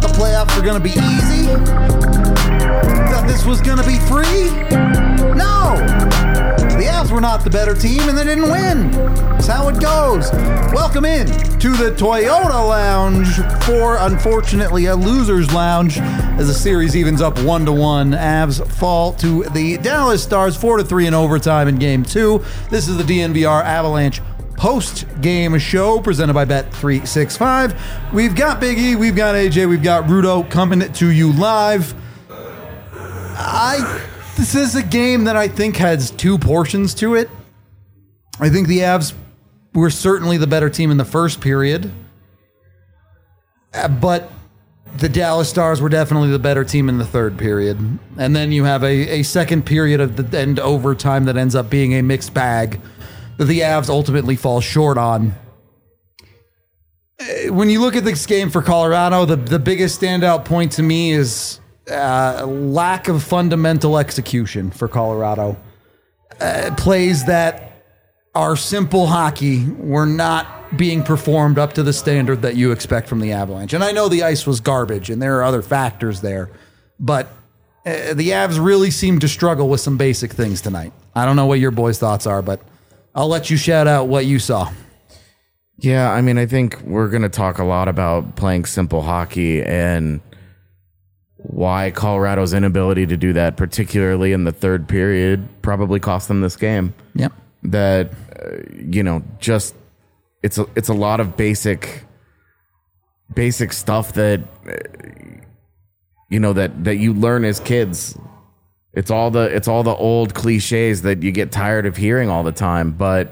the playoffs were going to be easy? That this was going to be free? No! The Avs were not the better team and they didn't win. That's how it goes. Welcome in to the Toyota Lounge for, unfortunately, a loser's lounge as the series evens up 1-1. Avs fall to the Dallas Stars 4-3 in overtime in Game 2. This is the DNVR Avalanche post-game show presented by Bet365. We've got Big E, we've got AJ, we've got Rudo coming to you live. This is a game that I think has two portions to it. I think the Avs were certainly the better team in the first period, but the Dallas Stars were definitely the better team in the third period. And then you have a second period of the end overtime that ends up being a mixed bag that the Avs ultimately fall short on. When you look at this game for Colorado, the biggest standout point to me is lack of fundamental execution for Colorado. Plays that are simple hockey were not being performed up to the standard that you expect from the Avalanche. And I know the ice was garbage and there are other factors there, but the Avs really seem to struggle with some basic things tonight. I don't know what your boys' thoughts are, but I'll let you shout out what you saw. Yeah, I mean, I think we're going to talk a lot about playing simple hockey and why Colorado's inability to do that, particularly in the third period, probably cost them this game. Yep. That, just it's a lot of basic stuff that, that you learn as kids. It's all the old cliches that you get tired of hearing all the time, but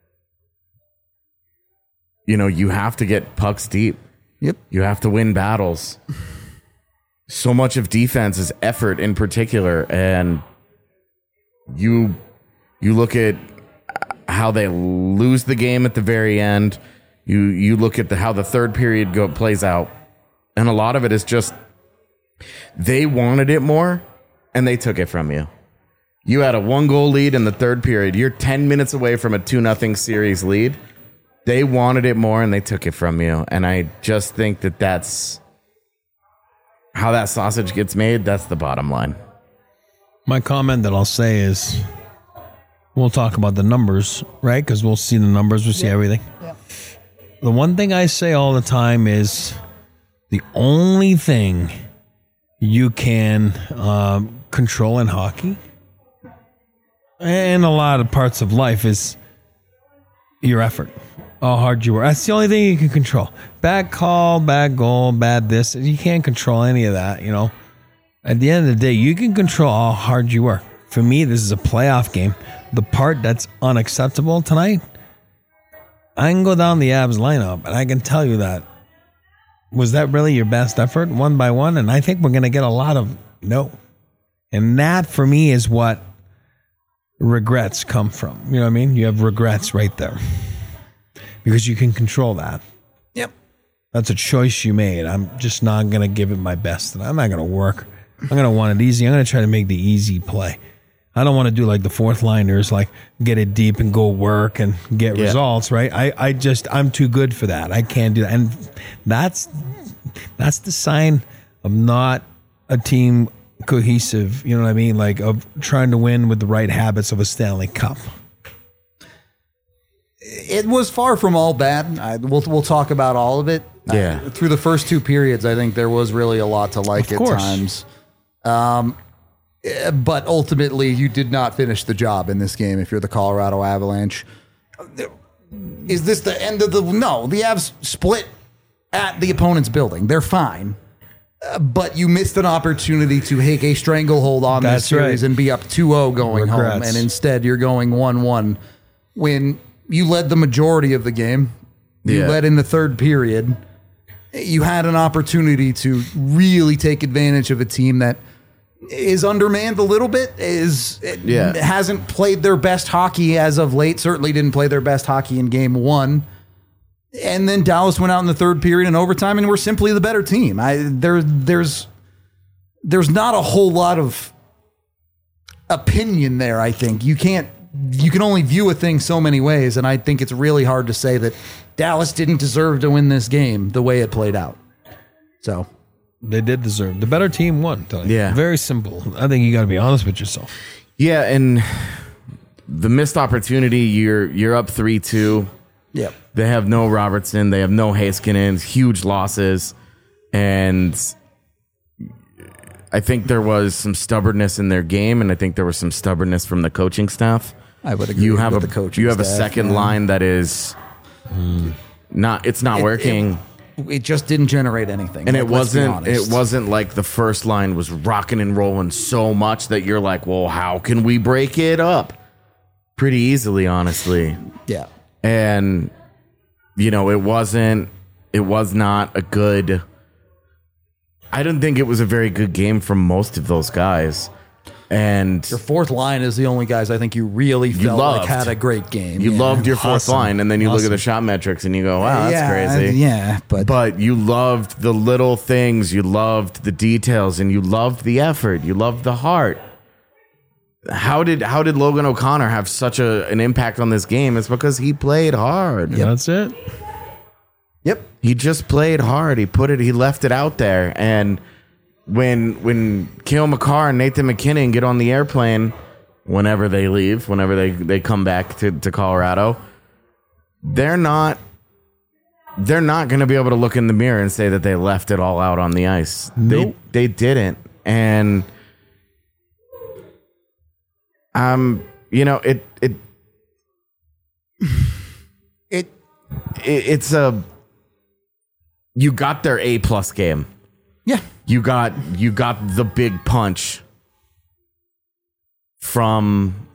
you have to get pucks deep. Yep. You have to win battles. So much of defense is effort in particular, and you look at how they lose the game at the very end. You look at how the third period plays out, and a lot of it is just they wanted it more, and they took it from you. You had a 1-goal lead in the third period. You're 10 minutes away from a 2-0 series lead. They wanted it more, and they took it from you. And I just think that's how that sausage gets made. That's the bottom line. My comment that I'll say is we'll talk about the numbers, right? Because we'll see the numbers. We'll see everything. Yeah. The one thing I say all the time is the only thing you can control in hockey and a lot of parts of life is your effort, how hard you work. That's the only thing you can control. Bad call, bad goal, bad this. You can't control any of that, At the end of the day, you can control how hard you work. For me, this is a playoff game. The part that's unacceptable tonight, I can go down the Avs lineup, and I can tell you that. Was that really your best effort, one by one? And I think we're going to get a lot of no. And that, for me, is what regrets come from. You know what I mean? You have regrets right there. Because you can control that. Yep. That's a choice you made. I'm just not going to give it my best. And I'm not going to work. I'm going to want it easy. I'm going to try to make the easy play. I don't want to do like the fourth liners, like get it deep and go work and get results, right? I'm too good for that. I can't do that. And that's the sign of not a team cohesive, you know what I mean? Like of trying to win with the right habits of a Stanley Cup. It was far from all bad. We'll talk about all of it. Yeah. Through the first two periods, I think there was really a lot to like at times. But ultimately, you did not finish the job in this game if you're the Colorado Avalanche. Is this the end of the... No, the Avs split at the opponent's building. They're fine. But you missed an opportunity to take a stranglehold on this series and be up 2-0 going home. And instead, you're going 1-1 when you led the majority of the game. You led in the third period. You had an opportunity to really take advantage of a team that is undermanned a little bit, hasn't played their best hockey as of late, certainly didn't play their best hockey in game one. And then Dallas went out in the third period in overtime and we're simply the better team. There's not a whole lot of opinion there, I think. You can only view a thing so many ways, and I think it's really hard to say that Dallas didn't deserve to win this game the way it played out. So They did deserve. The better team won. Tony. Yeah. Very simple. I think you got to be honest with yourself. Yeah, and the missed opportunity, you're up 3-2. Yep. They have no Robertson. They have no Heiskanen. Huge losses. And I think there was some stubbornness in their game, and I think there was some stubbornness from the coaching staff. I would agree You have with a the coaching You have a staff, second yeah. line that is not working. It just didn't generate anything. And Like, let's be honest. it wasn't like the first line was rocking and rolling so much that you're like, well, how can we break it up? Pretty easily, honestly. Yeah. And it was not a good, I don't think it was a very good game from most of those guys. And Your fourth line is the only guys I think you really felt loved. like had a great game. you Yeah. loved your fourth Awesome. line, and then you look at Awesome. the shot metrics and you go, wow, that's yeah, crazy. Yeah, But you loved the little things, you loved the details, and you loved the effort, you loved the heart. How did Logan O'Connor have such an impact on this game? It's because he played hard. That's it. Yep. He just played hard. He left it out there. And when Cale Makar and Nathan McKinnon get on the airplane, whenever they leave, whenever they come back to Colorado, they're not going to be able to look in the mirror and say that they left it all out on the ice. Nope. They didn't. And it's you got their A+ game. Yeah. You got the big punch from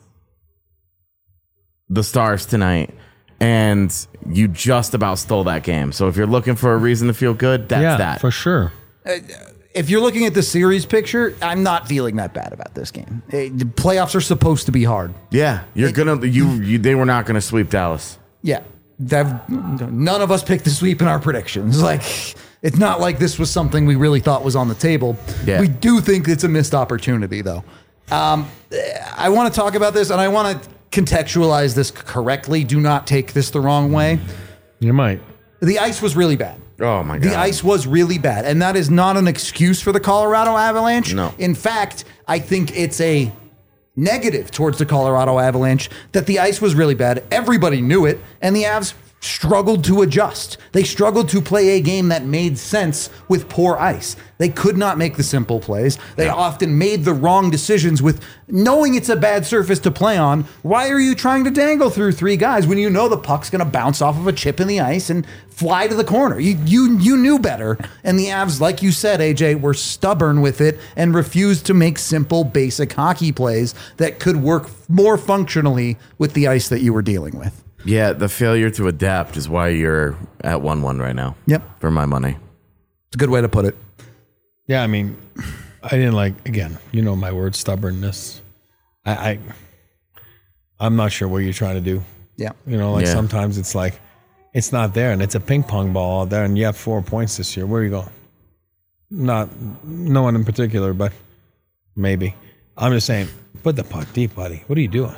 the Stars tonight, and you just about stole that game. So if you're looking for a reason to feel good, that's that. for sure. If you're looking at the series picture, I'm not feeling that bad about this game. The playoffs are supposed to be hard. Yeah, they were not gonna sweep Dallas. Yeah. None of us picked the sweep in our predictions. Like, it's not like this was something we really thought was on the table. Yeah. We do think it's a missed opportunity, though. I want to talk about this, and I want to contextualize this correctly. Do not take this the wrong way. You might. The ice was really bad. Oh my god. The ice was really bad, and that is not an excuse for the Colorado Avalanche. No. In fact, I think it's a negative towards the Colorado Avalanche that the ice was really bad. Everybody knew it, and the Avs struggled to adjust. They struggled to play a game that made sense with poor ice. They could not make the simple plays. They often made the wrong decisions with knowing it's a bad surface to play on. Why are you trying to dangle through three guys when you know the puck's going to bounce off of a chip in the ice and fly to the corner? You knew better. And the Avs, like you said, AJ, were stubborn with it and refused to make simple, basic hockey plays that could work more functionally with the ice that you were dealing with. Yeah, the failure to adapt is why you're at 1-1 right now. Yep. For my money. It's a good way to put it. Yeah, I mean, I didn't again, my word, stubbornness. I'm not sure what you're trying to do. Yeah. Yeah. Sometimes it's like, it's not there and it's a ping pong ball out there and you have 4 points this year. Where are you going? No one in particular, but maybe. I'm just saying, put the puck deep, buddy. What are you doing?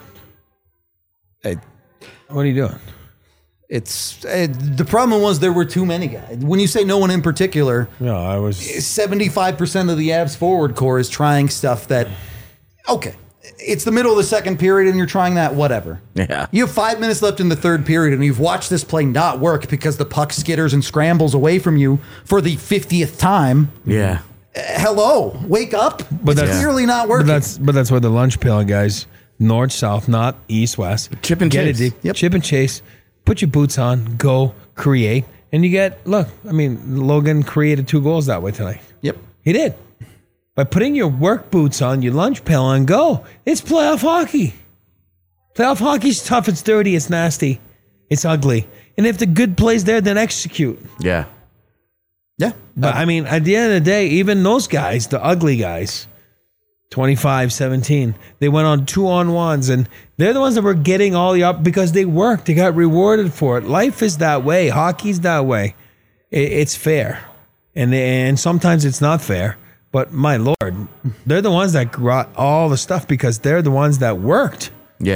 What are you doing? The problem was there were too many guys. When you say no one in particular, No, I was. 75% of the Avs forward core is trying stuff that, okay, it's the middle of the second period and you're trying that, whatever. Yeah. You have 5 minutes left in the third period and you've watched this play not work because the puck skitters and scrambles away from you for the 50th time. Yeah. Hello, wake up. But It's that's- clearly not working. But that's where the lunch pail guys, north, south, not east, west. Chip and Get chase. it deep. Yep. Chip and chase. Put your boots on. Go create. And you get, Logan created 2 goals that way tonight. Yep. He did. By putting your work boots on, your lunch pail on, go. It's playoff hockey. Playoff hockey's tough. It's dirty. It's nasty. It's ugly. And if the good play's there, then execute. Yeah. Yeah. But at the end of the day, even those guys, the ugly guys, 25-17, they went on 2-on-1s, and they're the ones that were getting all the up because they worked. They got rewarded for it. Life is that way. Hockey's that way. It's fair. And sometimes it's not fair. But my Lord, they're the ones that got all the stuff because they're the ones that worked. Yeah.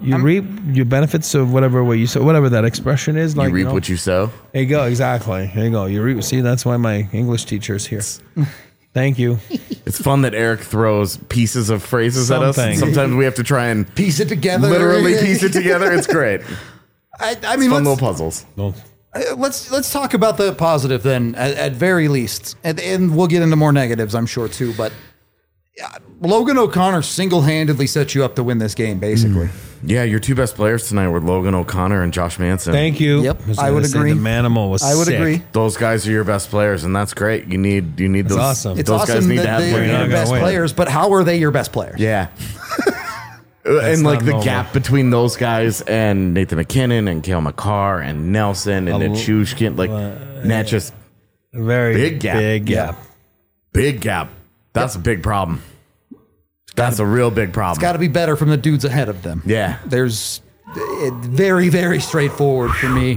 You reap your benefits of whatever way you sow, whatever that expression is. Like, You reap what you sow. There you go. Exactly. There you go. You reap. See, that's why my English teacher is here. Thank you. It's fun that Eric throws pieces of phrases at us. Something. Sometimes we have to try and Piece it together. literally piece it together. It's great. I mean, Fun little let's, puzzles. No. let's talk about the positive then, at very least, and we'll get into more negatives, I'm sure too. But Logan O'Connor single-handedly set you up to win this game, basically. Yeah, your two best players tonight were Logan O'Connor and Josh Manson. Thank you. Yep, was I gonna would say agree. The Manimal was I would sick. agree. Those guys are your best players, and that's great. You need those. awesome. It's those guys awesome need to that have they're more not your gonna best win. players, but how are they your best players? Yeah. And like not the normal. gap between those guys and Nathan McKinnon and Cale McCarr and Nelson and Nichushkin, like that just Very Big gap. Big gap. big gap. That's a big problem. That's a real big problem. Got to be better from the dudes ahead of them. Yeah. There's very, very straightforward for me.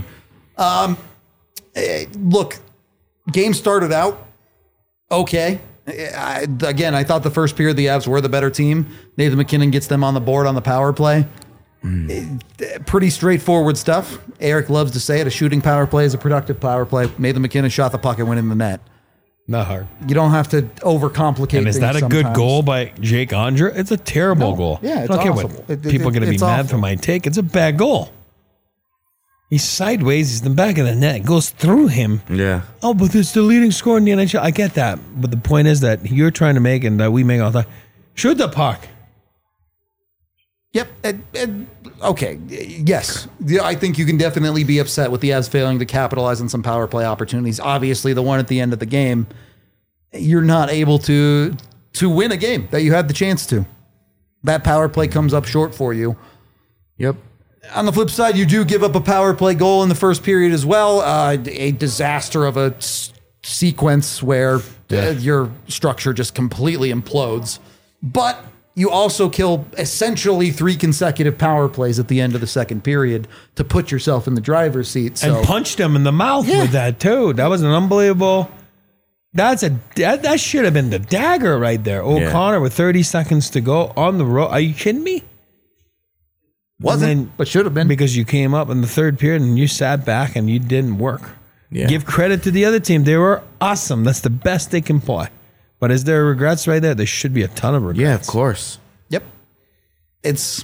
Look, game started out okay. I thought the first period the Avs were the better team. Nathan McKinnon gets them on the board on the power play. Pretty straightforward stuff. Eric loves to say it. A shooting power play is a productive power play. Nathan McKinnon shot the puck and went in the net. Not hard. You don't have to overcomplicate And is things that a good sometimes. goal by Jake Andre? It's a terrible No. goal. Yeah, it's I don't care awful. what people are going to be It's mad awful. for my take. It's a bad goal. He's sideways. He's in the back of the net. It goes through him. Yeah. Oh, but it's the leading scorer in the NHL. I get that. But the point is that you're trying to make and that we make all the time. Shoot the puck. Yep. Okay. Yes. Yeah, I think you can definitely be upset with the Avs failing to capitalize on some power play opportunities. Obviously, the one at the end of the game, you're not able to win a game that you had the chance to. That power play comes up short for you. Yep. On the flip side, you do give up a power play goal in the first period as well. A disaster of a sequence where your structure just completely implodes. But you also kill essentially 3 consecutive power plays at the end of the second period to put yourself in the driver's seat. So And punched him in the mouth with that, too. That was an unbelievable. That should have been the dagger right there. O'Connor with 30 seconds to go on the road. Are you kidding me? wasn't, And then- but should have been. Because you came up in the third period and you sat back and you didn't work. Yeah. Give credit to the other team. They were awesome. That's the best they can play. But is there regrets right there? There should be a ton of regrets. Yeah, of course. Yep. It's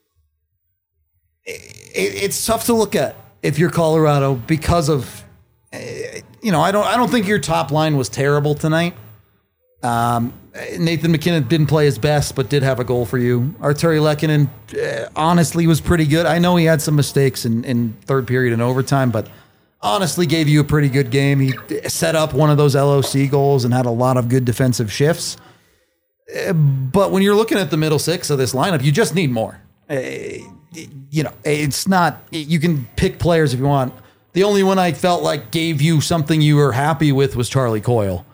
tough to look at if you're Colorado because of I don't think your top line was terrible tonight. Nathan McKinnon didn't play his best, but did have a goal for you. Arturi Lehkonen honestly was pretty good. I know he had some mistakes in third period and overtime, but honestly gave you a pretty good game. He set up one of those LOC goals and had a lot of good defensive shifts. But when you're looking at the middle six of this lineup, you just need more. It's not, you can pick players if you want. The only one I felt like gave you something you were happy with was Charlie Coyle.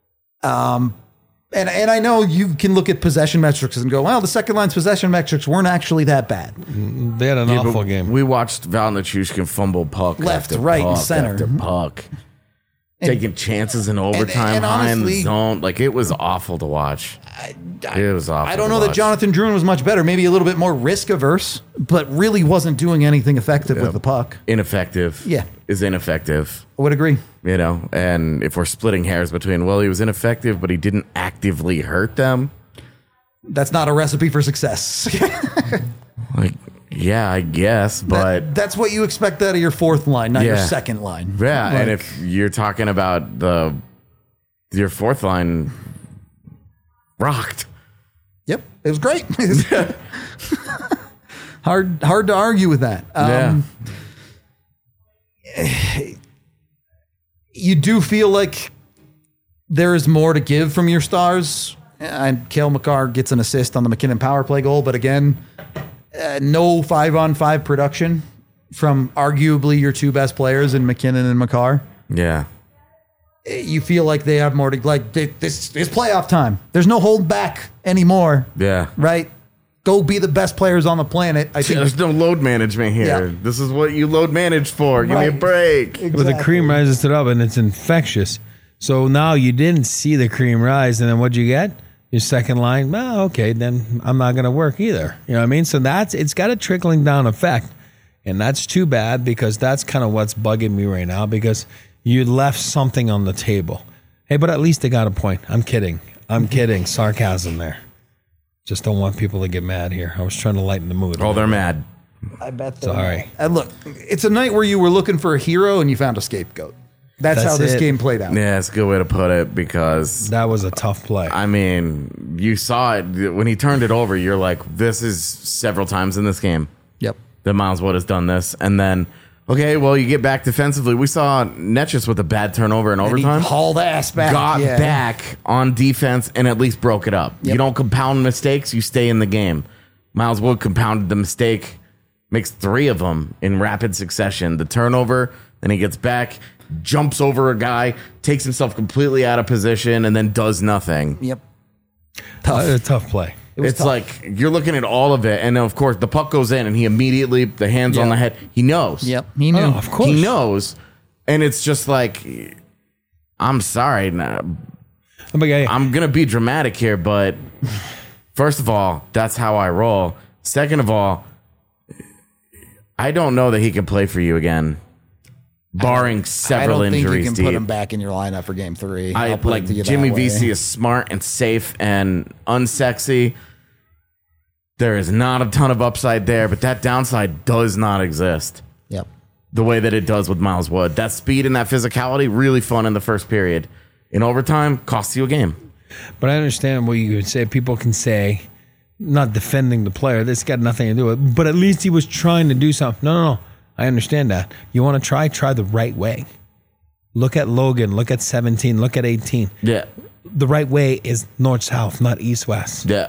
And I know you can look at possession metrics and go, well, the second line's possession metrics weren't actually that bad. They had an Yeah, but awful game. We watched Val Nichushkin fumble puck Left, after right, and puck center. after puck. Taking chances in overtime, and high in honestly- the zone. Like, it was awful to watch. It was awful. I don't to know that watch. Jonathan Drouin was much better, maybe a little bit more risk averse, but really wasn't doing anything effective with the puck. Ineffective. Yeah. Is ineffective. I would agree. And if we're splitting hairs between, well, he was ineffective, but he didn't actively hurt them. That's not a recipe for success. Like, yeah, I guess, but that's what you expect out of your fourth line, not your Yeah. second line. yeah. Like, And if you're talking about your fourth line rocked. Yep, it was great. hard to argue with that. You do feel like there is more to give from your stars. And Cale McCarr gets an assist on the McKinnon power play goal, but again, no 5-on-5 production from arguably your two best players in McKinnon and McCarr. Yeah. You feel like they have more to like. This is playoff time. There's no hold back anymore. Yeah. Right. Go be the best players on the planet. I think. There's no load management here. Yeah. This is what you load manage for. Give me a Right. break. But the cream rises to the top and it's infectious. So now you didn't see the cream rise, and then what'd you get? Your second line, well, okay, then I'm not going to work either. You know what I mean? So it's got a trickling down effect. And that's too bad because that's kind of what's bugging me right now because you left something on the table. Hey, but at least they got a point. I'm kidding. Sarcasm there. Just don't want people to get mad here. I was trying to lighten the mood. Oh, they're mad. I bet. Sorry. Look, it's a night where you were looking for a hero and you found a scapegoat. That's how this game played out. Yeah, it's a good way to put it because That was a tough play. I mean, you saw it when he turned it over. You're like, this is several times in this game Yep. that Miles Wood has done this, and then okay, well, you get back defensively. We saw Netchus with a bad turnover in overtime. He hauled ass back. Got back on defense and at least broke it up. Yep. You don't compound mistakes, you stay in the game. Miles Wood compounded the mistake, makes 3 of them in rapid succession. The turnover, then he gets back, jumps over a guy, takes himself completely out of position, and then does nothing. Yep. A tough play. It's tough. Like you're looking at all of it, and then of course the puck goes in, and he immediately the hands on the head. He knows. Yep. He knew. Oh, of course. He knows, and it's just like, I'm sorry, I'm gonna be dramatic here, but first of all, that's how I roll. Second of all, I don't know that he can play for you again, barring several I don't injuries. think you can deep. put him back in your lineup for Game 3. I I'll put like it to you Jimmy that way. VC is smart and safe and unsexy. There is not a ton of upside there, but that downside does not exist Yep. the way that it does with Miles Wood. That speed and that physicality, really fun in the first period. In overtime, costs you a game. But I understand what you would say. People can say, not defending the player. This got nothing to do with it. But at least he was trying to do something. No. I understand that. You want to try the right way. Look at Logan. Look at 17. Look at 18. Yeah. The right way is north-south, not east-west. Yeah.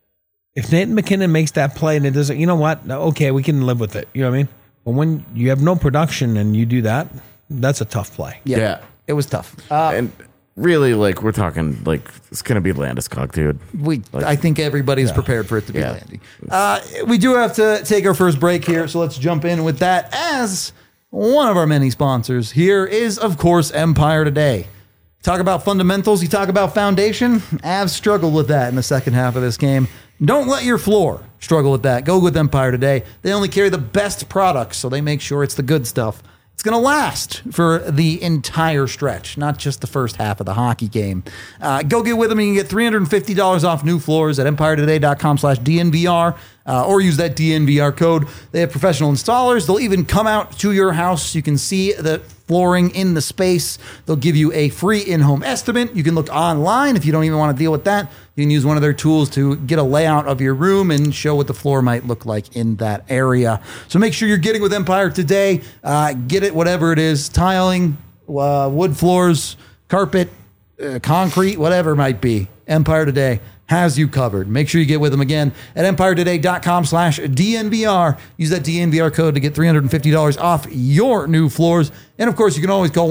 If Nathan McKinnon makes that play and it doesn't, you know what? Okay, we can live with it. You know what I mean? But when you have no production and you do that, that's a tough play. Yep. Yeah. It was tough. And really, like, we're talking, like, it's going to be Landeskog, dude. I think everybody's prepared for it to be Yeah. Landy. We do have to take our first break here, so let's jump in with that. As one of our many sponsors here is, of course, Empire Today. Talk about fundamentals, you talk about foundation. Avs struggled with that in the second half of this game. Don't let your floor struggle with that. Go with Empire Today. They only carry the best products, so they make sure it's the good stuff. It's going to last for the entire stretch, not just the first half of the hockey game. Go get with them. You can get $350 off new floors at EmpireToday.com/DNVR or use that DNVR code. They have professional installers. They'll even come out to your house. You can see the flooring in the space. They'll give you a free in-home estimate. You can look online if you don't even want to deal with that. You can use one of their tools to get a layout of your room and show what the floor might look like in that area. So make sure you're getting with Empire Today. Get it, whatever it is, tiling, wood floors, carpet, concrete, whatever it might be. Empire Today has you covered. Make sure you get with them again at EmpireToday.com/DNVR. Use that DNVR code to get $350 off your new floors. And of course, you can always call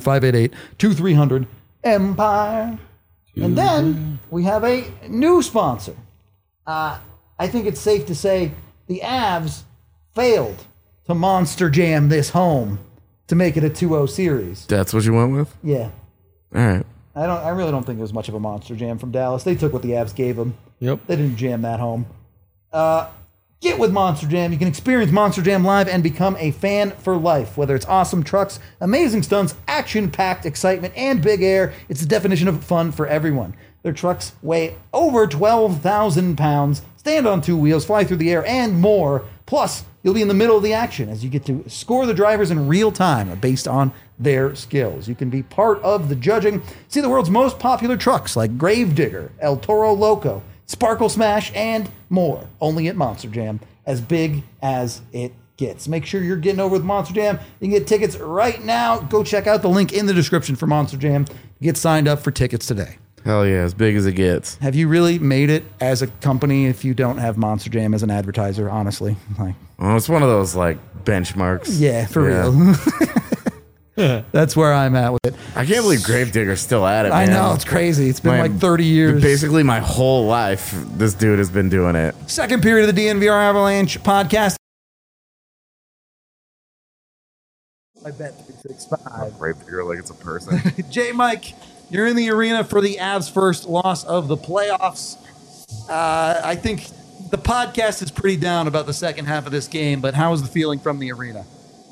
1-800-588-2300-EMPIRE. And then we have a new sponsor. I think it's safe to say the Avs failed to Monster Jam this home to make it a 2-0 series. That's what you went with? Yeah. All right. I really don't think it was much of a Monster Jam from Dallas. They took what the Avs gave them. Yep. They didn't jam that home. Get with Monster Jam. You can experience Monster Jam live and become a fan for life. Whether it's awesome trucks, amazing stunts, action-packed excitement, and big air, it's the definition of fun for everyone. Their trucks weigh over 12,000 pounds, stand on 2 wheels, fly through the air, and more. Plus, you'll be in the middle of the action as you get to score the drivers in real time based on their skills. You can be part of the judging. See the world's most popular trucks like Gravedigger, El Toro Loco, Sparkle Smash, and more. Only at Monster Jam, as big as it gets. Make sure you're getting over with Monster Jam. You can get tickets right now. Go check out the link in the description for Monster Jam. Get signed up for tickets today. Hell yeah, as big as it gets. Have you really made it as a company if you don't have Monster Jam as an advertiser, honestly? Like, Well, it's one of those, like, benchmarks. yeah, for real. That's where I'm at with it. I can't believe Gravedigger's still at it, I man. know, it's crazy. It's been My- like 30 years. Basically, my whole life, this dude has been doing it. Second period of the DNVR Avalanche podcast. I bet 365. Gravedigger like it's a person. J. Mike, You're in the arena for the Avs' first loss of the playoffs. I think the podcast is pretty down about the second half of this game, but how is the feeling from the arena?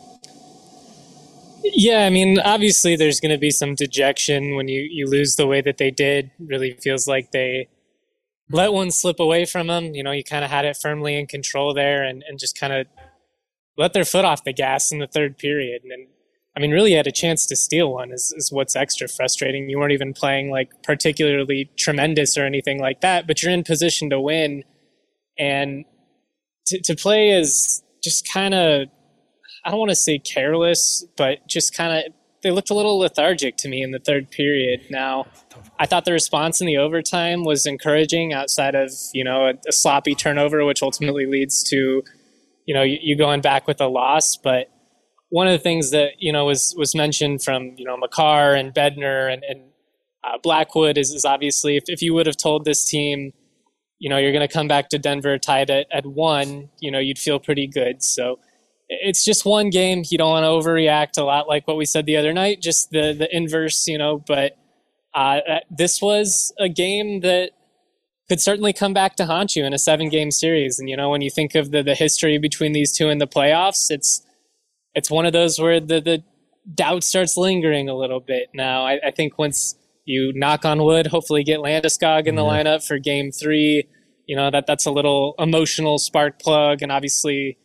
Yeah, I mean, obviously there's going to be some dejection when you lose the way that they did. Really feels like they let one slip away from them. You know, you kind of had it firmly in control there and just kind of let their foot off the gas in the third period. And I mean, really had a chance to steal one is what's extra frustrating. You weren't even playing like particularly tremendous or anything like that, but you're in position to win. And to play is just kind of, I don't want to say careless, but just kind of, they looked a little lethargic to me in the third period. Now, I thought the response in the overtime was encouraging outside of, you know, a sloppy turnover, which ultimately leads to, you know, you going back with a loss. But one of the things that, you know, was mentioned from, you know, Makar and Bednar and Blackwood is obviously if you would have told this team, you know, you're going to come back to Denver tied at 1, you know, you'd feel pretty good. So it's just one game. You don't want to overreact a lot like what we said the other night, just the inverse, you know, but this was a game that could certainly come back to haunt you in a 7-game series. And, you know, when you think of the history between these two in the playoffs, it's one of those where the doubt starts lingering a little bit. Now, I think once you knock on wood, hopefully get Landeskog in the lineup for game 3, you know, that's a little emotional spark plug and obviously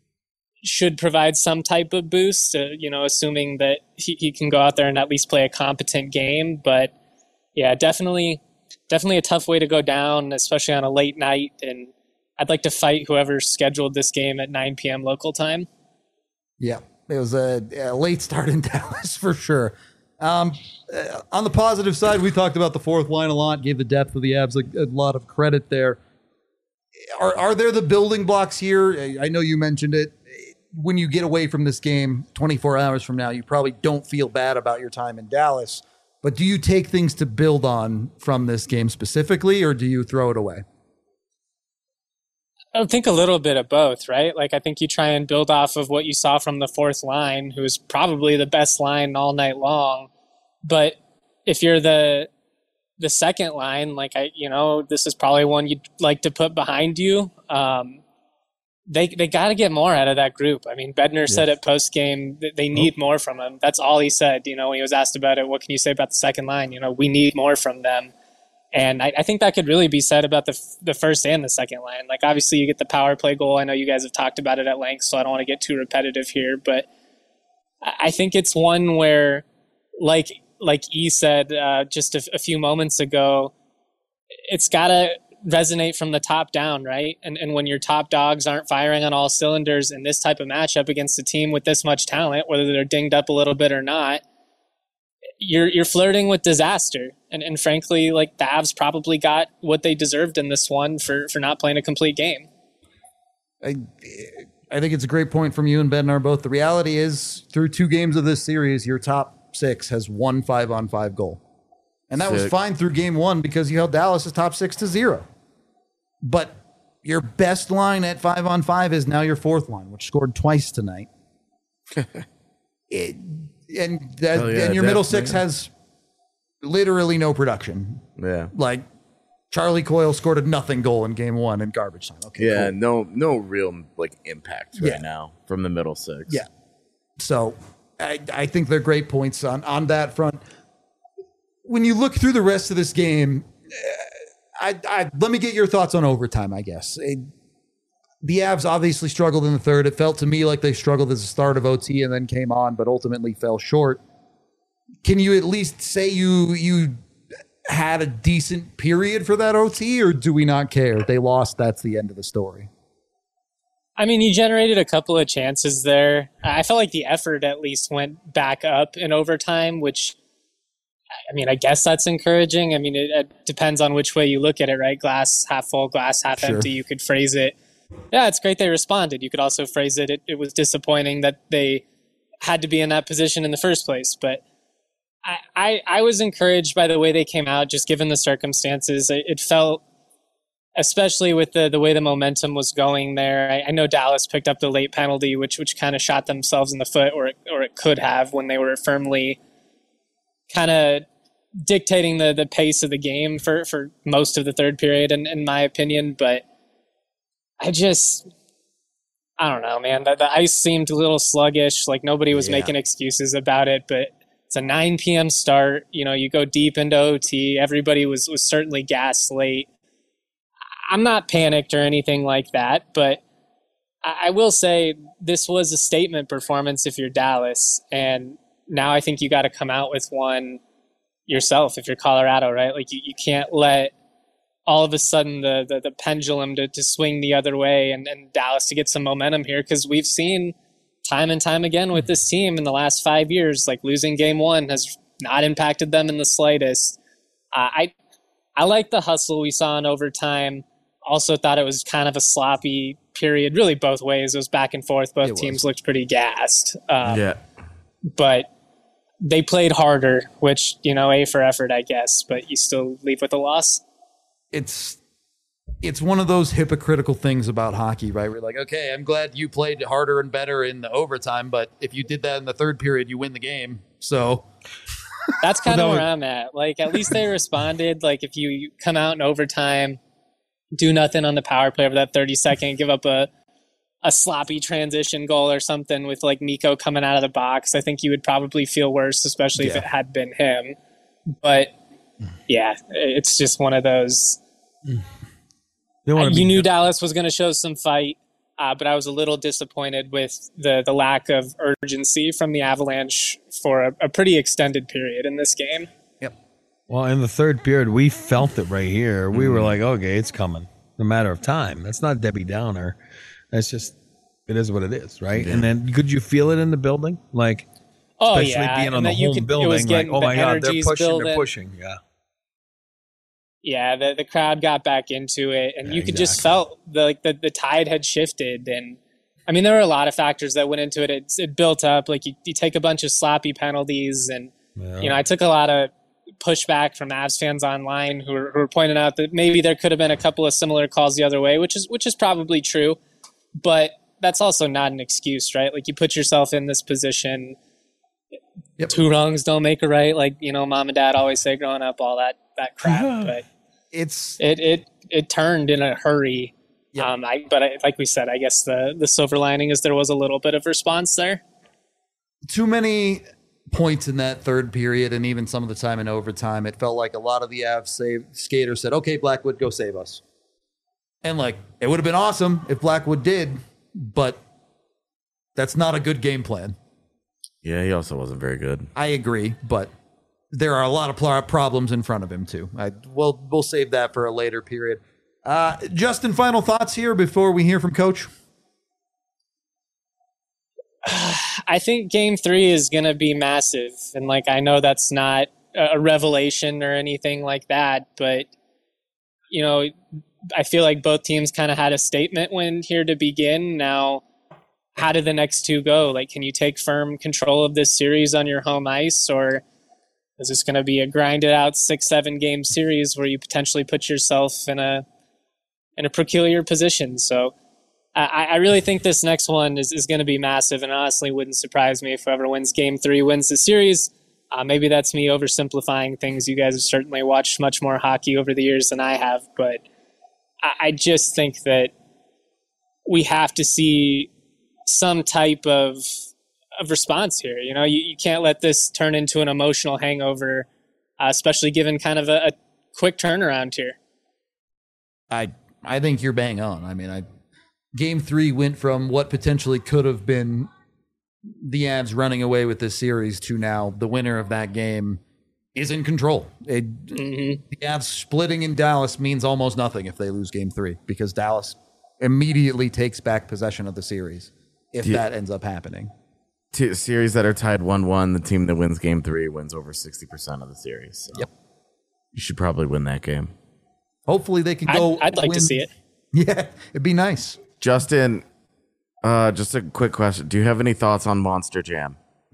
should provide some type of boost, you know, assuming that he can go out there and at least play a competent game. But yeah, definitely a tough way to go down, especially on a late night. And I'd like to fight whoever scheduled this game at 9 p.m. local time. Yeah, it was a late start in Dallas for sure. On the positive side, we talked about the fourth line a lot, gave the depth of the Avs a lot of credit there. Are there the building blocks here? I know you mentioned it. When you get away from this game 24 hours from now, you probably don't feel bad about your time in Dallas. But do you take things to build on from this game specifically, or do you throw it away? I think a little bit of both, right? Like, I think you try and build off of what you saw from the fourth line, who was probably the best line all night long. But if you're the second line, like, this is probably one you'd like to put behind you. They got to get more out of that group. I mean, Bednar said at post game that they need more from him. That's all he said. You know, when he was asked about it, what can you say about the second line? You know, we need more from them. And I think that could really be said about the first and the second line. Like, obviously, you get the power play goal. I know you guys have talked about it at length, so I don't want to get too repetitive here. But I think it's one where, like E said just a few moments ago, it's got to resonate from the top down, right? And when your top dogs aren't firing on all cylinders in this type of matchup against a team with this much talent, whether they're dinged up a little bit or not, you're flirting with disaster. And frankly, like, the Avs probably got what they deserved in this one for not playing a complete game. I think it's a great point from you and Bednar both. The reality is, through 2 games of this series, your top 6 has one 5-on-5 goal. And that was fine through game 1 because you held Dallas' top 6 to 0. But your best line at 5-on-5 is now your fourth line, which scored twice tonight. And your middle 6 has literally no production. Yeah. Like, Charlie Coyle scored a nothing goal in game 1 in garbage time. Okay, yeah, cool. no real like impact right now from the middle 6. Yeah. So I think they're great points on that front. When you look through the rest of this game, let me get your thoughts on overtime, I guess. The Avs obviously struggled in the third. It felt to me like they struggled at the start of OT and then came on, but ultimately fell short. Can you at least say you had a decent period for that OT, or do we not care? They lost. That's the end of the story. I mean, you generated a couple of chances there. I felt like the effort at least went back up in overtime, which, I mean, I guess that's encouraging. I mean, it depends on which way you look at it, right? Glass half full, glass half empty. You could phrase it, yeah, it's great they responded. You could also phrase it, it was disappointing that they had to be in that position in the first place. But I was encouraged by the way they came out, just given the circumstances. It felt, especially with the way the momentum was going there. I know Dallas picked up the late penalty, which kind of shot themselves in the foot, or it could have, when they were firmly kind of dictating the pace of the game for most of the third period, in my opinion. But I don't know, man. The ice seemed a little sluggish. Like nobody was making excuses about it, but it's a 9 p.m. start. You know, you go deep into OT. Everybody was certainly gassed late. I'm not panicked or anything like that, but I will say this was a statement performance if you're Dallas, and now I think you got to come out with one yourself if you're Colorado, right? Like you can't let all of a sudden the pendulum to swing the other way and Dallas to get some momentum here, because we've seen time and time again with this team in the last 5 years, like losing game one has not impacted them in the slightest. I like the hustle we saw in overtime. Also thought it was kind of a sloppy period, really both ways. It was back and forth. Both teams looked pretty gassed. But they played harder, which, you know, A for effort, I guess, but you still leave with a loss. It's one of those hypocritical things about hockey, right? We're like, okay, I'm glad you played harder and better in the overtime, but if you did that in the third period, you win the game. So that's kind of where I'm at. Like, at least they responded. Like, if you come out in overtime, do nothing on the power play over that 30-second, give up a sloppy transition goal or something with like Mikko coming out of the box, I think you would probably feel worse, especially if it had been him. But yeah, it's just one of those. You knew Dallas was going to show some fight, but I was a little disappointed with the lack of urgency from the Avalanche for a pretty extended period in this game. Yep. Well, in the third period, we felt it right here. We were like, okay, it's coming. No matter of time. That's not Debbie Downer. That's just, it is what it is, right? Yeah. And then could you feel it in the building? Like, especially being on the home building, like, oh my God, they're pushing. Yeah. Yeah, the crowd got back into it, and you could just felt the tide had shifted. And I mean, there were a lot of factors that went into it. It built up. Like you take a bunch of sloppy penalties, and you know, I took a lot of pushback from Avs fans online who were pointing out that maybe there could have been a couple of similar calls the other way, which is probably true, but that's also not an excuse, right? Like you put yourself in this position. Yep. Two wrongs don't make a right. Like, you know, mom and dad always say growing up, all that crap, but it turned in a hurry. Yep. Like we said, I guess the silver lining is there was a little bit of response there. Too many points in that third period, and even some of the time in overtime, it felt like a lot of the Avs skaters said, okay, Blackwood, go save us. And like, it would have been awesome if Blackwood did, but that's not a good game plan. Yeah, he also wasn't very good. I agree, but there are a lot of problems in front of him too. We'll save that for a later period. Justin, final thoughts here before we hear from Coach? I think Game 3 is going to be massive, and like I know that's not a revelation or anything like that, but you know, I feel like both teams kind of had a statement win here to begin. Now, how do the next two go? Like, can you take firm control of this series on your home ice, or is this going to be a grinded out 6-7 game series where you potentially put yourself in a peculiar position? So I really think this next one is going to be massive, and honestly wouldn't surprise me if whoever wins Game 3 wins the series. Maybe that's me oversimplifying things. You guys have certainly watched much more hockey over the years than I have, but I just think that we have to see some type of response here. You know, you can't let this turn into an emotional hangover, especially given kind of a quick turnaround here. I think you're bang on. I mean, Game 3 went from what potentially could have been the Avs running away with this series to now the winner of that game is in control. The Avs splitting in Dallas means almost nothing if they lose Game 3, because Dallas immediately takes back possession of the series if that ends up happening. Series that are tied 1-1, the team that wins Game 3 wins over 60% of the series. So yep. You should probably win that game. Hopefully they can go. I'd like to see it. Yeah, it'd be nice. Justin, just a quick question. Do you have any thoughts on Monster Jam?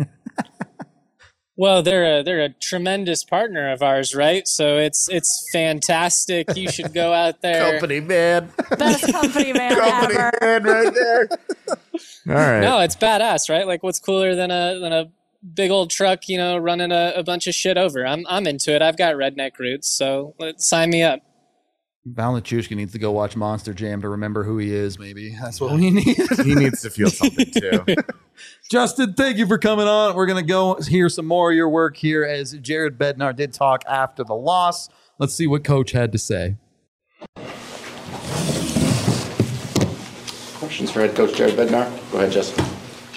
Well, they're a tremendous partner of ours, right? So it's fantastic. You should go out there. Company man. Best company man Company ever. man right there. All right. No, it's badass, right? Like, what's cooler than a big old truck, running a bunch of shit over. I'm into it. I've got redneck roots, so sign me up. Val Nichushkin needs to go watch Monster Jam to remember who he is, maybe. That's what we need. He needs to feel something too. Justin, thank you for coming on. We're going to go hear some more of your work here as Jared Bednar did talk after the loss. Let's see what Coach had to say. Questions for head coach Jared Bednar? Go ahead, Justin.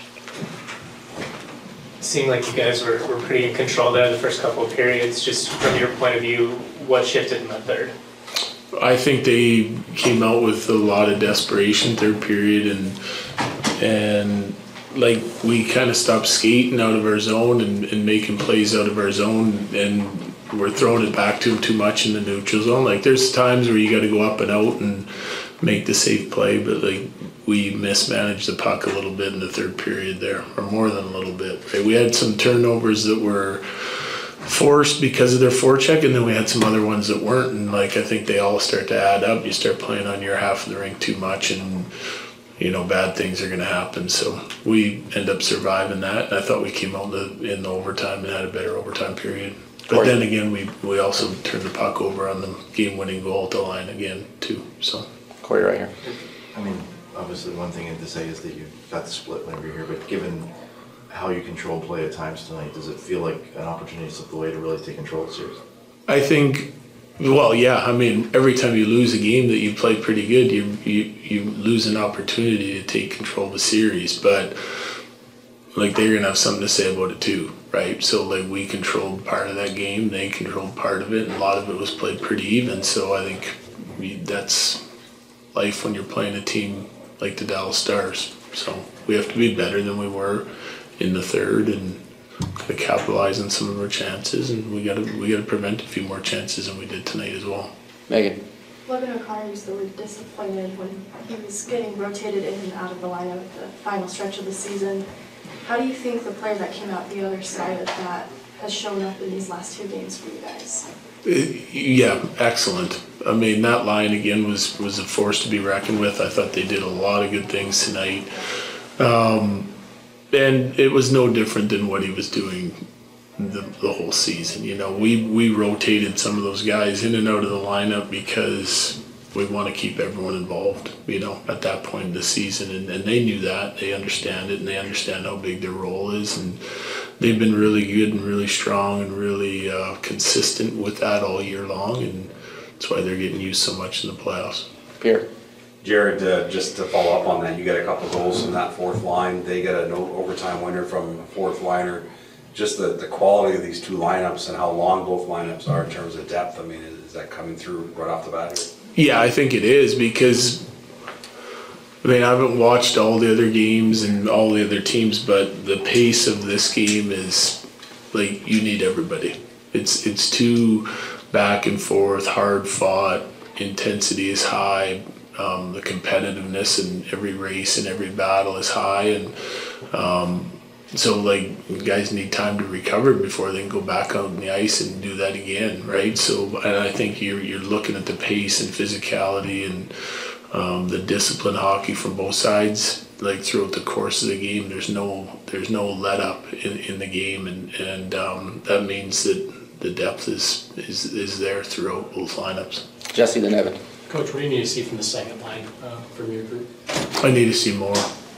Seemed like you guys were pretty in control there the first couple of periods. Just from your point of view, what shifted in the third? I think they came out with a lot of desperation third period, and like we kind of stopped skating out of our zone and making plays out of our zone, and we're throwing it back to them too much in the neutral zone. Like there's times where you got to go up and out and make the safe play, but like we mismanaged the puck a little bit in the third period there, or more than a little bit. Right? We had some turnovers that were forced because of their forecheck, and then we had some other ones that weren't, and like I think they all start to add up. You start playing on your half of the rink too much, and bad things are going to happen. So we end up surviving that, and I thought we came out in the overtime and had a better overtime period. But then again, we also turned the puck over on the game-winning goal at the line again too. So Corey, right here. I mean, obviously one thing to say is that you got the split whenever you're here, but given how you control play at times tonight, does it feel like an opportunity to slip away to really take control of the series? I think, well, yeah. I mean, every time you lose a game that you play pretty good, you lose an opportunity to take control of the series. But like they're gonna have something to say about it too, right? So like we controlled part of that game, they controlled part of it, and a lot of it was played pretty even. So I think that's life when you're playing a team like the Dallas Stars. So we have to be better than we were in the third and to capitalize on some of our chances, and we gotta prevent a few more chances than we did tonight as well. Megan. Logan O'Connor used the word disappointed when he was getting rotated in and out of the lineup at the final stretch of the season. How do you think the player that came out the other side of that has shown up in these last two games for you guys? Yeah, excellent. I mean, that line again was a force to be reckoned with. I thought they did a lot of good things tonight. And it was no different than what he was doing the whole season. We rotated some of those guys in and out of the lineup because we want to keep everyone involved, at that point in the season. And they knew that. They understand it, and they understand how big their role is. And they've been really good and really strong and really consistent with that all year long. And that's why they're getting used so much in the playoffs. Pierre. Jared, just to follow up on that, you got a couple goals from that fourth line. They got an overtime winner from a fourth liner. Just the quality of these two lineups and how long both lineups are in terms of depth. I mean, is that coming through right off the bat here? Yeah, I think it is because, I haven't watched all the other games and all the other teams, but the pace of this game is like you need everybody. It's too back and forth, hard fought, intensity is high. The competitiveness in every race and every battle is high, and so like guys need time to recover before they can go back out on the ice and do that again, right? So, and I think you're looking at the pace and physicality and the discipline hockey from both sides. Like throughout the course of the game, there's no let up in the game, and that means that the depth is there throughout both lineups. Jesse, then Evan. Coach, what do you need to see from the second line from your group? I need to see more.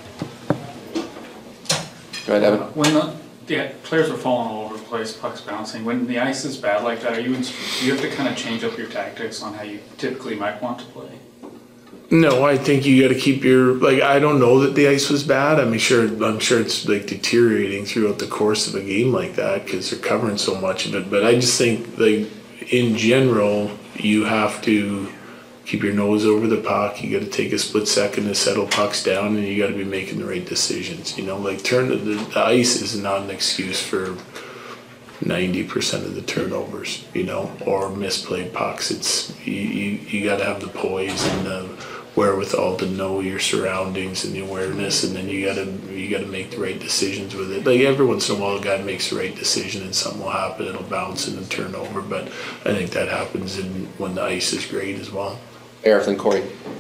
Go ahead, Evan. When the players are falling all over the place, pucks bouncing, when the ice is bad like that, do you have to kind of change up your tactics on how you typically might want to play? No, I think you got to keep I don't know that the ice was bad. I'm sure it's like deteriorating throughout the course of a game like that because they're covering so much of it. But I just think like in general, you have to keep your nose over the puck. You got to take a split second to settle pucks down, and you got to be making the right decisions. The ice is not an excuse for 90% of the turnovers, or misplayed pucks. It's you got to have the poise and the wherewithal to know your surroundings and the awareness, and then you got to make the right decisions with it. Like every once in a while, a guy makes the right decision and something will happen. It'll bounce and then turn over, but I think that happens when the ice is great as well. Eric and Corey.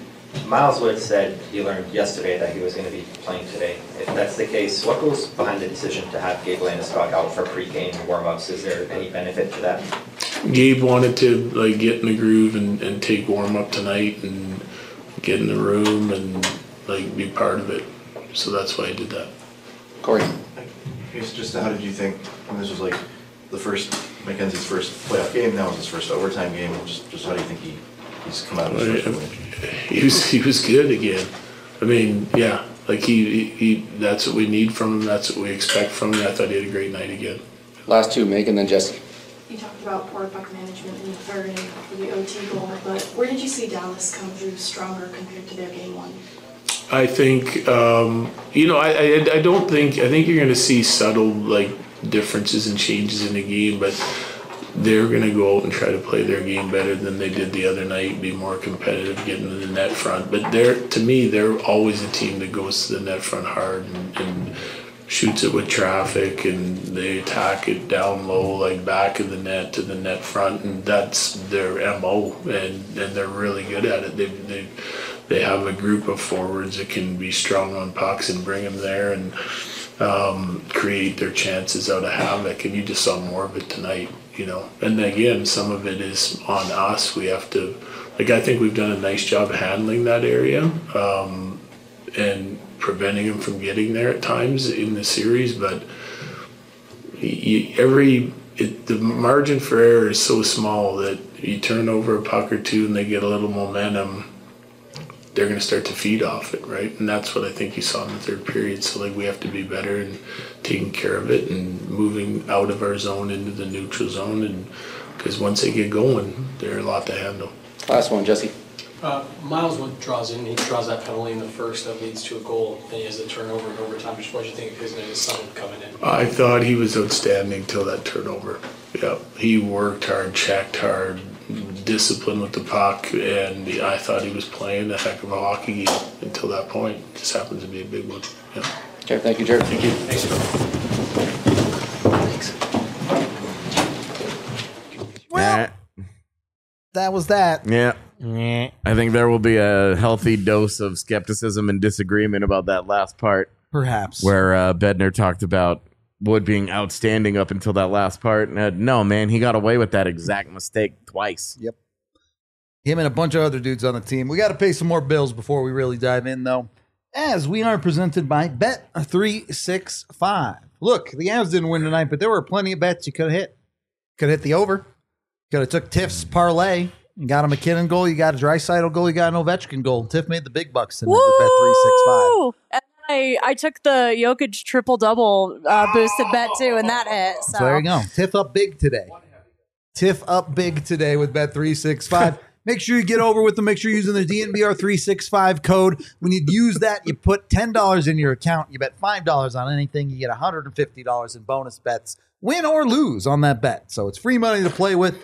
Miles Wood said he learned yesterday that he was going to be playing today. If that's the case, what goes behind the decision to have Gabe Landeskog out for pre-game warm-ups? Is there any benefit to that? Gabe wanted to get in the groove and take warm up tonight and get in the room and be part of it. So that's why I did that. Corey. It's just how did you think when this was the first Mackenzie's first playoff game? Now it's his first overtime game. Just how do you think he's come out of his first win? He was good again. I mean, yeah, he that's what we need from him. That's what we expect from him. I thought he had a great night again. Last two, Megan, then Jesse. You talked about poor puck management in the third inning for the OT goal, but where did you see Dallas come through stronger compared to their game one? I think, I don't think, I think you're going to see subtle, differences and changes in the game, but they're going to go out and try to play their game better than they did the other night, be more competitive, get into the net front. But to me, they're always a team that goes to the net front hard and shoots it with traffic, and they attack it down low, back of the net to the net front, and that's their MO, and they're really good at it. They have a group of forwards that can be strong on pucks and bring them there and create their chances out of havoc, and you just saw more of it tonight, And again, some of it is on us. We have to, I think we've done a nice job handling that area and preventing them from getting there at times in the series, but the margin for error is so small that you turn over a puck or two and they get a little momentum, they're going to start to feed off it, right? And that's what I think you saw in the third period. So we have to be better in taking care of it and moving out of our zone into the neutral zone, and because once they get going, they're a lot to handle. Last one, Jesse. Miles Wood draws that penalty in the first that leads to a goal, and he has the turnover in overtime. Just what do you think of his and his son coming in? I thought he was outstanding till that turnover. Yeah, he worked hard, checked hard, disciplined with the puck, and I thought he was playing a heck of a hockey game until that point. It just happens to be a big one. Yeah. Okay, thank you, Jared. Thank you. Thanks. Well, that was that. Yeah. I think there will be a healthy dose of skepticism and disagreement about that last part. Perhaps. Where Bednar talked about Wood being outstanding up until that last part. No, man, he got away with that exact mistake twice. Yep. Him and a bunch of other dudes on the team. We got to pay some more bills before we really dive in, though, as we are presented by Bet365. Look, the Avs didn't win tonight, but there were plenty of bets you could have hit. Could have hit the over. Could have took Tiff's parlay. You got a McKinnon goal, you got a Draisaitl goal, you got an Ovechkin goal. Tiff made the big bucks tonight with Bet365. And I took the Jokic triple-double boosted bet, too, and that hit. So there you go. Tiff up big today. Tiff up big today with Bet365. Make sure you get over with them. Make sure you're using the DNVR365 code. When you use that, you put $10 in your account. You bet $5 on anything. You get $150 in bonus bets, win or lose on that bet. So it's free money to play with.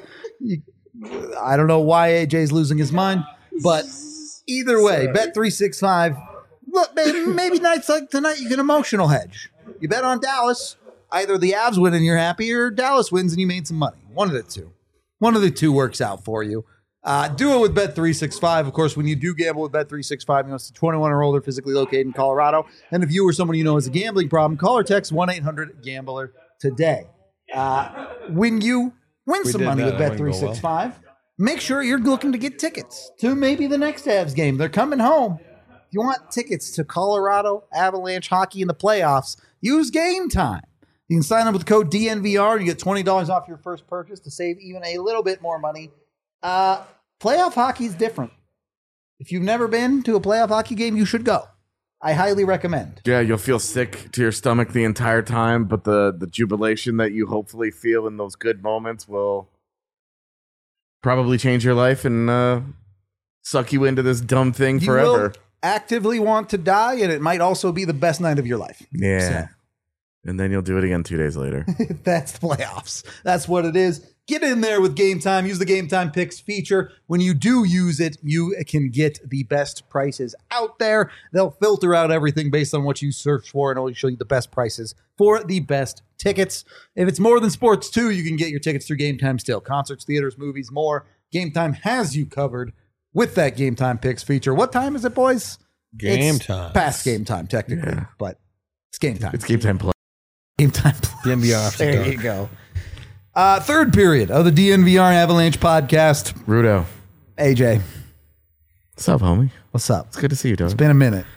I don't know why AJ's losing his mind, but either way, Bet365. Look, maybe nights like tonight, you can emotional hedge. You bet on Dallas. Either the Avs win and you're happy, or Dallas wins and you made some money. One of the two. One of the two works out for you. Do it with Bet365. Of course, when you do gamble with Bet365, you must be 21 or older, physically located in Colorado. And if you or someone you know has a gambling problem, call or text 1-800-GAMBLER today. When you win some money with Bet365, make sure you're looking to get tickets to maybe the next Avs game. They're coming home. If you want tickets to Colorado Avalanche hockey in the playoffs, use Game Time. You can sign up with the code DNVR and you get $20 off your first purchase to save even a little bit more money. Playoff hockey is different. If you've never been to a playoff hockey game, you should go. I highly recommend. Yeah, you'll feel sick to your stomach the entire time, but the jubilation that you hopefully feel in those good moments will probably change your life and suck you into this dumb thing forever. You will actively want to die, and it might also be the best night of your life. Yeah. So. And then you'll do it again 2 days later. That's the playoffs. That's what it is. Get in there with Game Time. Use the Game Time Picks feature. When you do use it, you can get the best prices out there. They'll filter out everything based on what you search for and only show you the best prices for the best tickets. If it's more than sports, too, you can get your tickets through Game Time still. Concerts, theaters, movies, more. Game Time has you covered. with that Game Time Picks feature. What time is it, boys? Game It's time. past game time, technically, but it's game time. It's game time play. Game time play. DNVR after There dark. you go. Third period of the DNVR Avalanche podcast. Rudo. AJ, What's up, homie? what's up? It's good to see you, dog. It's been a minute.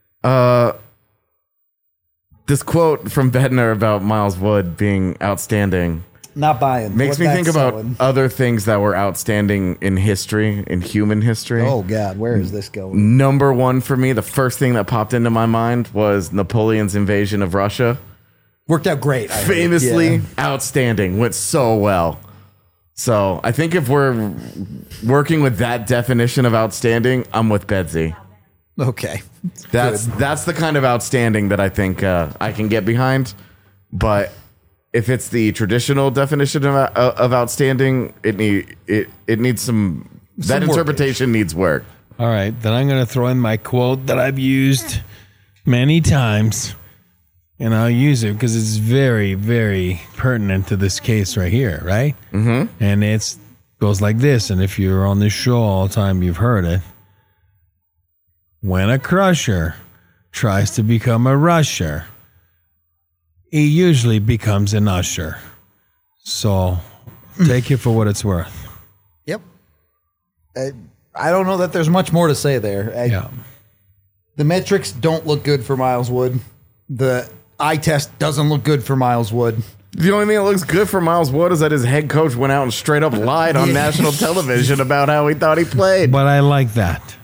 This quote from Bednar about Miles Wood being outstanding Not buying. makes What me that's think about selling. other things that were outstanding in history, in human history. Oh, God, where is this going? Number one for me, the first thing that popped into my mind was Napoleon's invasion of Russia. Worked out great. I heard. Famously Yeah. outstanding. Went so well. So I think if we're working with that definition of outstanding, I'm with Bedsy. Okay. That's the kind of outstanding that I think I can get behind. But if it's the traditional definition of outstanding, it needs some that work. interpretation needs work. All right, then I'm going to throw in my quote that I've used many times, and I'll use it because it's very, very pertinent to this case right here, right? Mm-hmm. And it goes like this, and if you're on this show all the time, you've heard it. When a crusher tries to become a rusher, he usually becomes an usher. So take it for what it's worth. Yep. I don't know that there's much more to say there. Yeah. The metrics don't look good for Miles Wood. The eye test doesn't look good for Miles Wood. The only thing that looks good for Miles Wood is that his head coach went out and straight up lied on national television about how he thought he played. But I like that.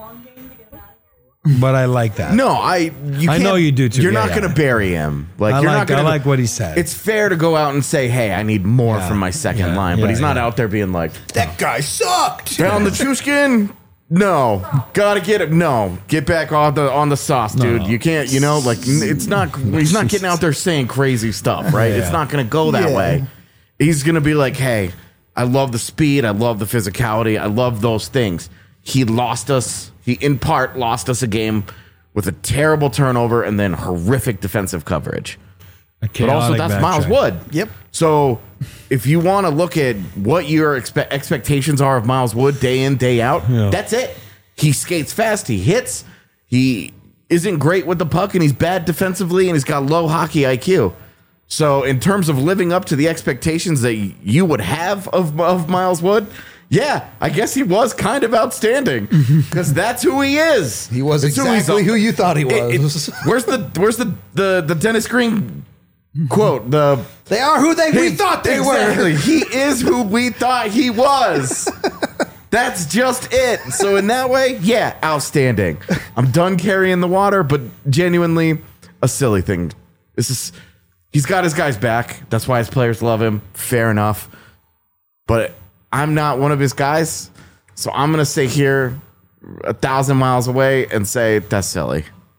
But I like that. No, I know you do too. You're Yeah, not yeah. going to bury him. Like I you're like- not going I like what he said. It's fair to go out and say, "Hey, I need more Yeah. from my second Yeah. line," but Yeah, he's not yeah. out there being like, That guy sucked. "Down the Chushkin." No, gotta get it. No, get back on the sauce, dude. No. You can't. You know, like it's not. He's not getting out there saying crazy stuff, right? Yeah. It's not going to go that Yeah. way. He's going to be like, "Hey, I love the speed. I love the physicality. I love those things." He lost us. He in part lost us a game with a terrible turnover and then horrific defensive coverage. But also, that's Miles Wood. Yep. So, if you want to look at what your expectations are of Miles Wood day in, day out, Yeah. that's it. He skates fast. He hits. He isn't great with the puck, and he's bad defensively, and he's got low hockey IQ. So, in terms of living up to the expectations that you would have of Miles Wood, yeah, I guess he was kind of outstanding because that's who he is. He was It's exactly who you thought he was. Where's the Dennis Green quote? They are who we thought they Exactly. were. He is who we thought he was. That's just it. So in that way, yeah, outstanding. I'm done carrying the water, but genuinely a silly thing. He's got his guys back. That's why his players love him. Fair enough. But I'm not one of his guys. So I'm going to stay here 1,000 miles away and say that's silly.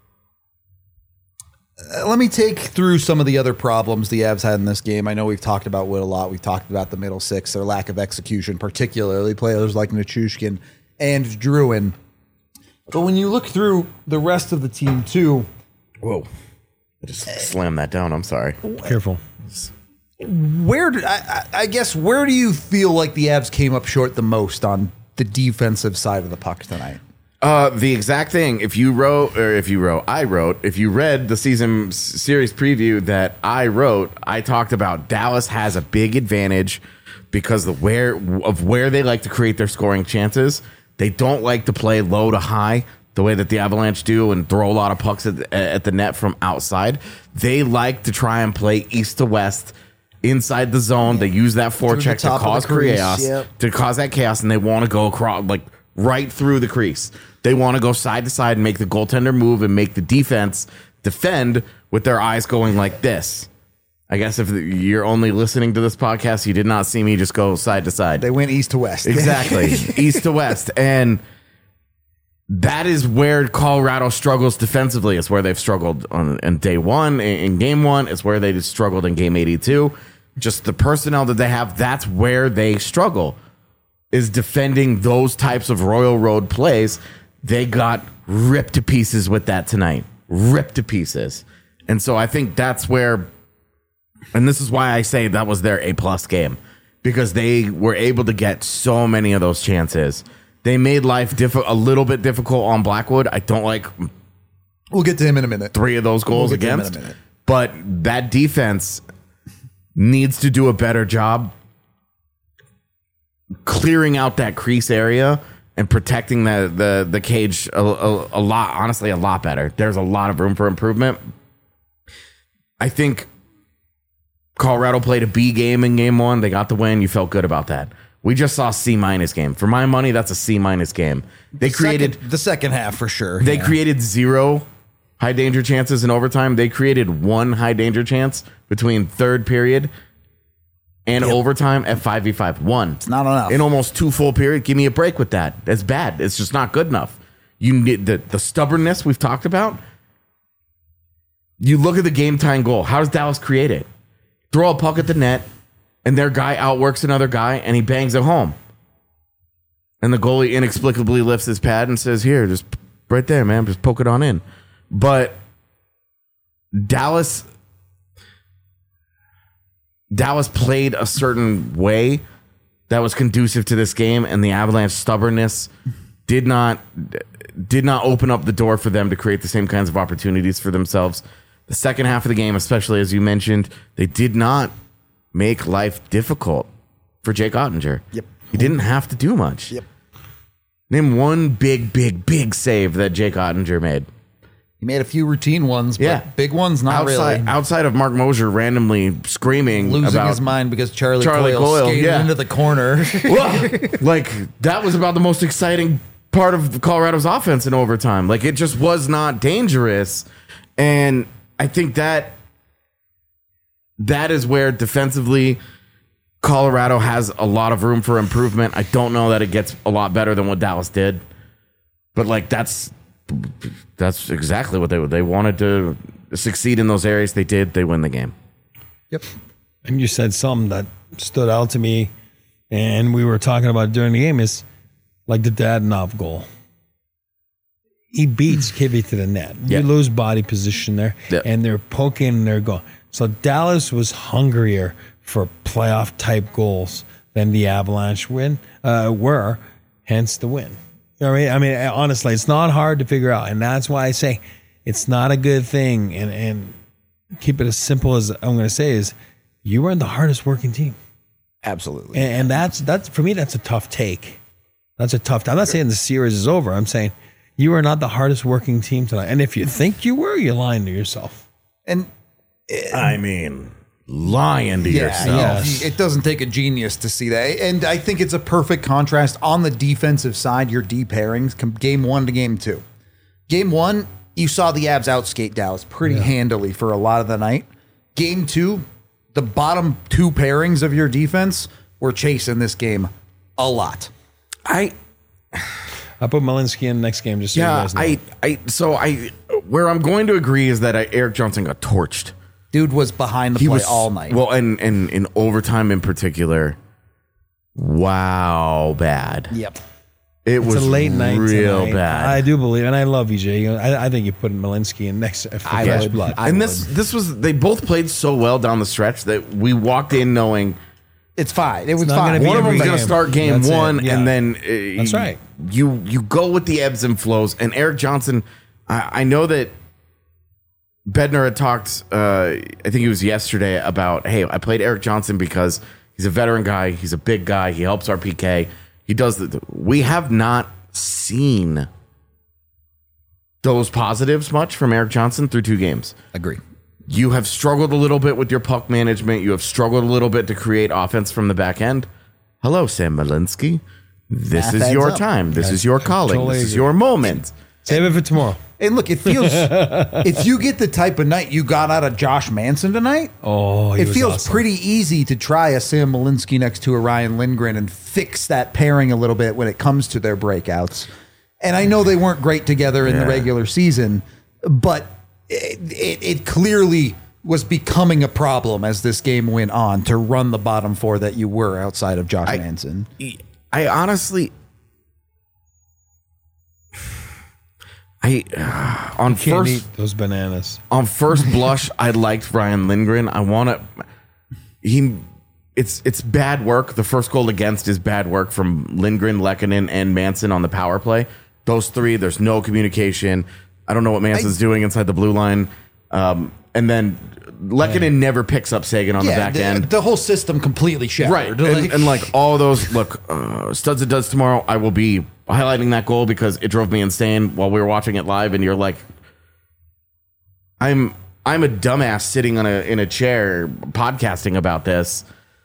Let me take through some of the other problems the Avs had in this game. I know we've talked about Wood a lot. We've talked about the middle six, their lack of execution, particularly players like Nichushkin and Druin. But when you look through the rest of the team too, whoa! I just slammed that down. I'm sorry. Careful. I guess where do you feel like the Avs came up short the most on the defensive side of the puck tonight? The exact thing. If you read the season series preview that I wrote, I talked about Dallas has a big advantage because of where they like to create their scoring chances. They don't like to play low to high the way that the Avalanche do and throw a lot of pucks at the net from outside. They like to try and play east to west inside the zone. They use that forecheck to cause chaos, and they want to go across, like right through the crease. They want to go side to side and make the goaltender move and make the defense defend with their eyes going like this. I guess if you're only listening to this podcast, you did not see me just go side to side. They went east to west. Exactly. East to west. And that is where Colorado struggles defensively. It's where they've struggled on day one, in game one. It's where they just struggled in game 82. Just the personnel that they have, that's where they struggle, is defending those types of Royal Road plays. They got ripped to pieces with that tonight. Ripped to pieces. And so I think that's where, and this is why I say that was their A+ game, because they were able to get so many of those chances They made life a little bit difficult on Blackwood. I don't like. We'll get to him in a minute. 3 of those goals We'll get to him in against. a minute. But that defense needs to do a better job clearing out that crease area and protecting the cage a lot, honestly, a lot better. There's a lot of room for improvement. I think Colorado played a B game in game 1. They got the win. You felt good about that. We just saw C- game. For my money, that's a C- game. They created the second half for sure. They created 0 high danger chances in overtime. They created 1 high danger chance between third period and overtime at 5v5. 1. It's not enough. In almost 2 full period. Give me a break with that. That's bad. It's just not good enough. You need the stubbornness we've talked about. You look at the game time goal. How does Dallas create it? Throw a puck at the net, and their guy outworks another guy, and he bangs it home. And the goalie inexplicably lifts his pad and says, here, just right there, man, just poke it on in. But Dallas played a certain way that was conducive to this game, and the Avalanche stubbornness did not open up the door for them to create the same kinds of opportunities for themselves. The second half of the game, especially as you mentioned, they did not make life difficult for Jake Ottinger. Yep. He didn't have to do much. Yep. Name one big save that Jake Ottinger made. He made a few routine ones, but big ones, not really. Outside of Mark Mosier randomly screaming Losing about his mind because Charlie Coyle Coyle skated yeah. into the corner. Like, that was about the most exciting part of Colorado's offense in overtime. Like, it just was not dangerous. And I think that is where defensively Colorado has a lot of room for improvement. I don't know that it gets a lot better than what Dallas did. But, like, that's exactly what they wanted to succeed in those areas. They did. They win the game. Yep. And you said something that stood out to me, and we were talking about during the game, is like the Dadonov goal. He beats Kivy to the net. Yeah. You lose body position there, and they're poking and they're going. So Dallas was hungrier for playoff type goals than the Avalanche were, hence the win. You know what I mean? Honestly, it's not hard to figure out, and that's why I say it's not a good thing. And keep it as simple as I'm going to say is, you are the hardest working team. Absolutely. And that's for me. That's a tough take. That's a tough. I'm not saying the series is over. I'm saying you are not the hardest working team tonight. And if you think you were, you're lying to yourself. And I mean, lying to yourself. Yes. It doesn't take a genius to see that. And I think it's a perfect contrast on the defensive side, your D pairings, game 1 to game 2. Game 1, you saw the Avs outskate Dallas pretty handily for a lot of the night. Game 2, the bottom 2 pairings of your defense were chasing this game a lot. I put Malinsky in next game just so you guys know. Where I'm going to agree is that Eric Johnson got torched. Dude was behind the play all night. Well, and in overtime in particular, wow, bad. Yep. It's was a late night real tonight. bad. I do believe, and I love EJ. I think you put Malinsky in next. I blood. And this was, they both played so well down the stretch that we walked in knowing it's fine. It was not fine. gonna be one of every them's going to game. start game That's it. 1, Yeah. and then That's right. You go with the ebbs and flows. And Eric Johnson, I know that Bednar had talked, I think it was yesterday, about, hey, I played Eric Johnson because he's a veteran guy. He's a big guy. He helps our PK. He does we have not seen those positives much from Eric Johnson through 2 games. Agree. You have struggled a little bit with your puck management. You have struggled a little bit to create offense from the back end. Hello, Sam Malinsky. This is your time. This is your calling. Totally This is agree. your moment. Save it for tomorrow. And look, it feels if you get the type of night you got out of Josh Manson tonight, it feels awesome. pretty easy to try a Sam Malinsky next to a Ryan Lindgren and fix that pairing a little bit when it comes to their breakouts. And I know they weren't great together in the regular season, but it clearly was becoming a problem as this game went on to run the bottom 4 that you were outside of Josh Manson. I honestly, on Can't first eat those bananas. on first blush, I liked Ryan Lindgren. it's bad work. The first goal against is bad work from Lindgren, Lehkonen, and Manson on the power play. Those three, there's no communication. I don't know what Manson's doing inside the blue line. And then Lehkonen never picks up Sagan on the back end. The whole system completely shattered. Right. And like all those, look, Studs It Does tomorrow, I will be highlighting that goal because it drove me insane while we were watching it live. And you're like, I'm a dumbass sitting in a chair podcasting about this.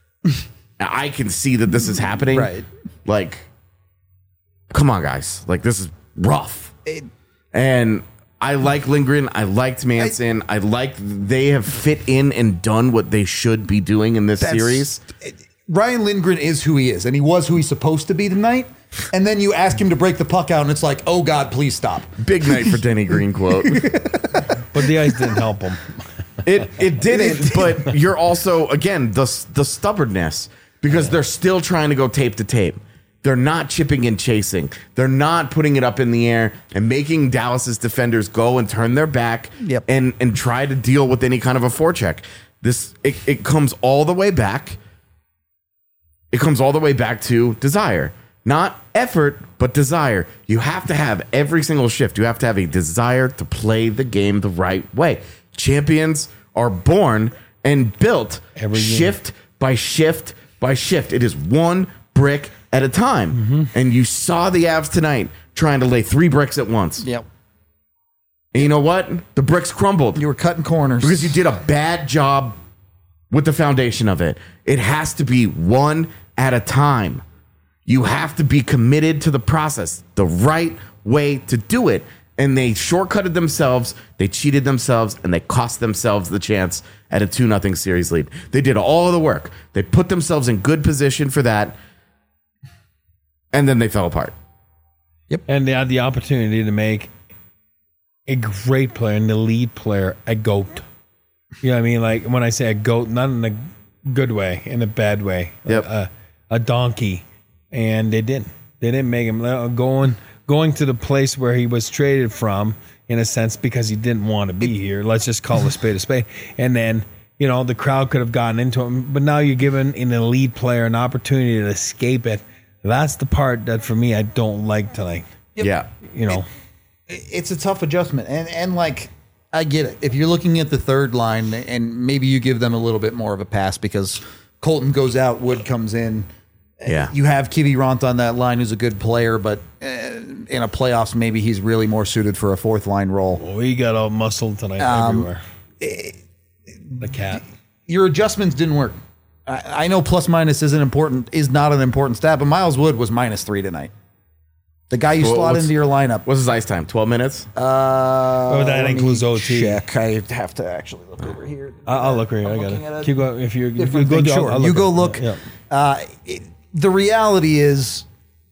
I can see that this is happening. Right. Like, come on, guys. Like, this is rough. And I like Lindgren. I liked Manson. I like they have fit in and done what they should be doing in this series. Ryan Lindgren is who he is, and he was who he's supposed to be tonight. And then you ask him to break the puck out, and it's like, oh, God, please stop. Big night for Denny Green quote. But the ice didn't help him. It didn't, but you're also, again, the stubbornness, because they're still trying to go tape to tape. They're not chipping and chasing. They're not putting it up in the air and making Dallas's defenders go and turn their back and try to deal with any kind of a forecheck. It comes all the way back. It comes all the way back to desire. Not effort, but desire. You have to have every single shift. You have to have a desire to play the game the right way. Champions are born and built shift by shift by shift. It is one brick at a time. Mm-hmm. And you saw the Avs tonight trying to lay 3 bricks at once. Yep. And you know what? The bricks crumbled. You were cutting corners. Because you did a bad job with the foundation of it. It has to be one at a time. You have to be committed to the process, the right way to do it. And they shortcutted themselves, they cheated themselves, and they cost themselves the chance at a 2-0 series lead. They did all of the work. They put themselves in good position for that, and then they fell apart. Yep. And they had the opportunity to make a great player and the lead player a GOAT. You know what I mean? Like when I say a GOAT, not in a good way, in a bad way. Yep. A donkey. And they didn't. They didn't make him going to the place where he was traded from, in a sense, because he didn't want to be here. Let's just call a spade a spade. And then, you know, the crowd could have gotten into him, but now you're giving an elite player an opportunity to escape it. That's the part that, for me, I don't like tonight. Yep. Yeah. You know. It's a tough adjustment. And like, I get it. If you're looking at the third line, and maybe you give them a little bit more of a pass because Colton goes out, Wood comes in. Yeah. You have Kivi Ront on that line, who's a good player, but in a playoffs, maybe he's really more suited for a fourth line role. Oh, he got all muscled tonight everywhere. The cat. Your adjustments didn't work. I know plus minus is not an important stat, but Miles Wood was -3 tonight. The guy you slot into your lineup. What's his ice time? 12 minutes? That includes OT. Check. I have to actually look over here. I'll look right here. I got it. Keep going. If you go, sure. You go look. Yeah. The reality is,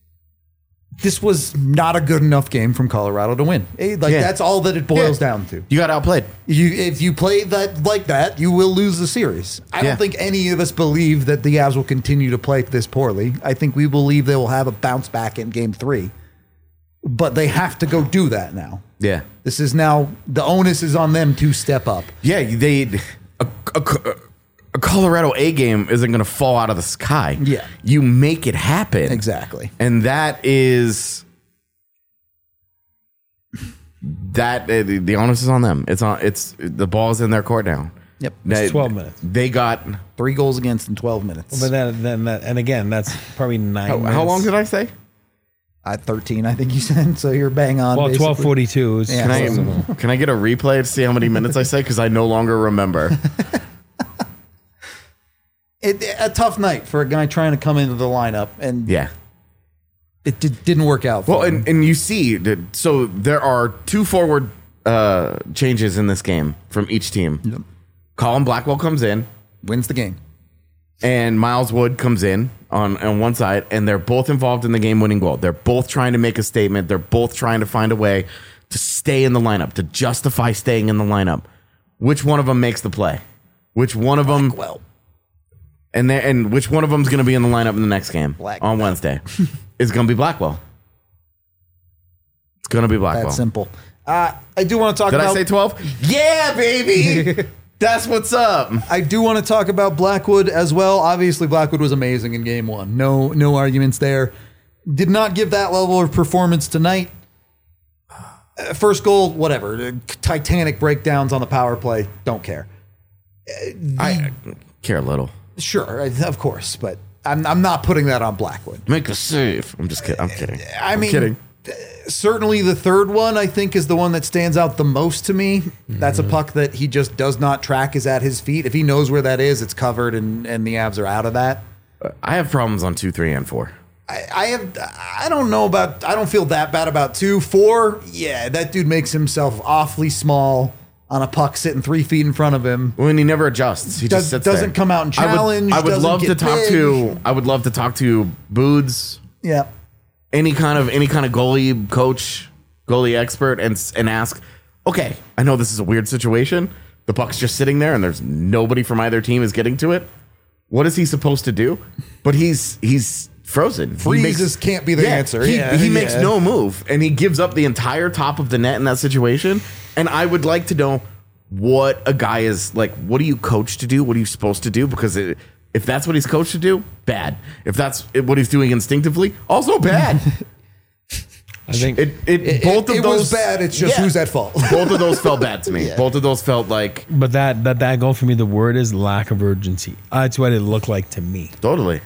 this was not a good enough game from Colorado to win. That's all that it boils down to. You got outplayed. If you play that like that, you will lose the series. I don't think any of us believe that the Avs will continue to play this poorly. I think we believe they will have a bounce back in Game 3. But they have to go do that now. Yeah. This is now, the onus is on them to step up. Yeah, a Colorado A game isn't going to fall out of the sky. Yeah. You make it happen. Exactly. And that is the onus is on them. It's the ball's in their court now. Yep. It's 12 minutes. They got 3 goals against in 12 minutes. But then and again, that's probably 9 minutes. How long did I say? 13, I think you said. So you're bang on. Well, 12:42. Yeah. Can I get a replay to see how many minutes I say? Because I no longer remember. A tough night for a guy trying to come into the lineup, and it didn't work out. Well, and you see, so there are 2 forward changes in this game from each team. Yep. Colin Blackwell comes in, wins the game, and Miles Wood comes in on one side, and they're both involved in the game-winning goal. They're both trying to make a statement. They're both trying to find a way to stay in the lineup, to justify staying in the lineup. Which one of them makes the play? Which one of them? Blackwell. And which one of them is going to be in the lineup in the next game on Wednesday? It's going to be Blackwell. It's going to be Blackwell. That's simple. I do want to talk about... Did I say 12? Yeah, baby! That's what's up. I do want to talk about Blackwood as well. Obviously, Blackwood was amazing in game one. No arguments there. Did not give that level of performance tonight. First goal, whatever. Titanic breakdowns on the power play. Don't care. I care a little. Sure, of course, but I'm not putting that on Blackwood. Make a save. I'm just kidding. I'm kidding. I'm kidding. Certainly the third one, I think, is the one that stands out the most to me. That's a puck that he just does not track is at his feet. If he knows where that is, it's covered, and the Avs are out of that. I have problems on 2, 3, and 4. I don't feel that bad about 2. 4, yeah, that dude makes himself awfully small on a puck sitting 3 feet in front of him. When he never adjusts, he just sits doesn't there. come out and challenge. I would love to talk big. to. I would love to talk to Boods. Yeah. Any kind of goalie coach, goalie expert, and ask. Okay, I know this is a weird situation. The puck's just sitting there, and there's nobody from either team is getting to it. What is he supposed to do? But he's frozen. Freezes can't be the answer. He makes no move, and he gives up the entire top of the net in that situation. And I would like to know what a guy is like. What do you coach to do? What are you supposed to do? Because if that's what he's coached to do, bad. If that's what he's doing instinctively, also bad. I think it those was bad. It's just who's at fault. Both of those felt bad to me. Yeah. Both of those felt like. But that goal for me, the word is lack of urgency. That's what it looked like to me. Totally.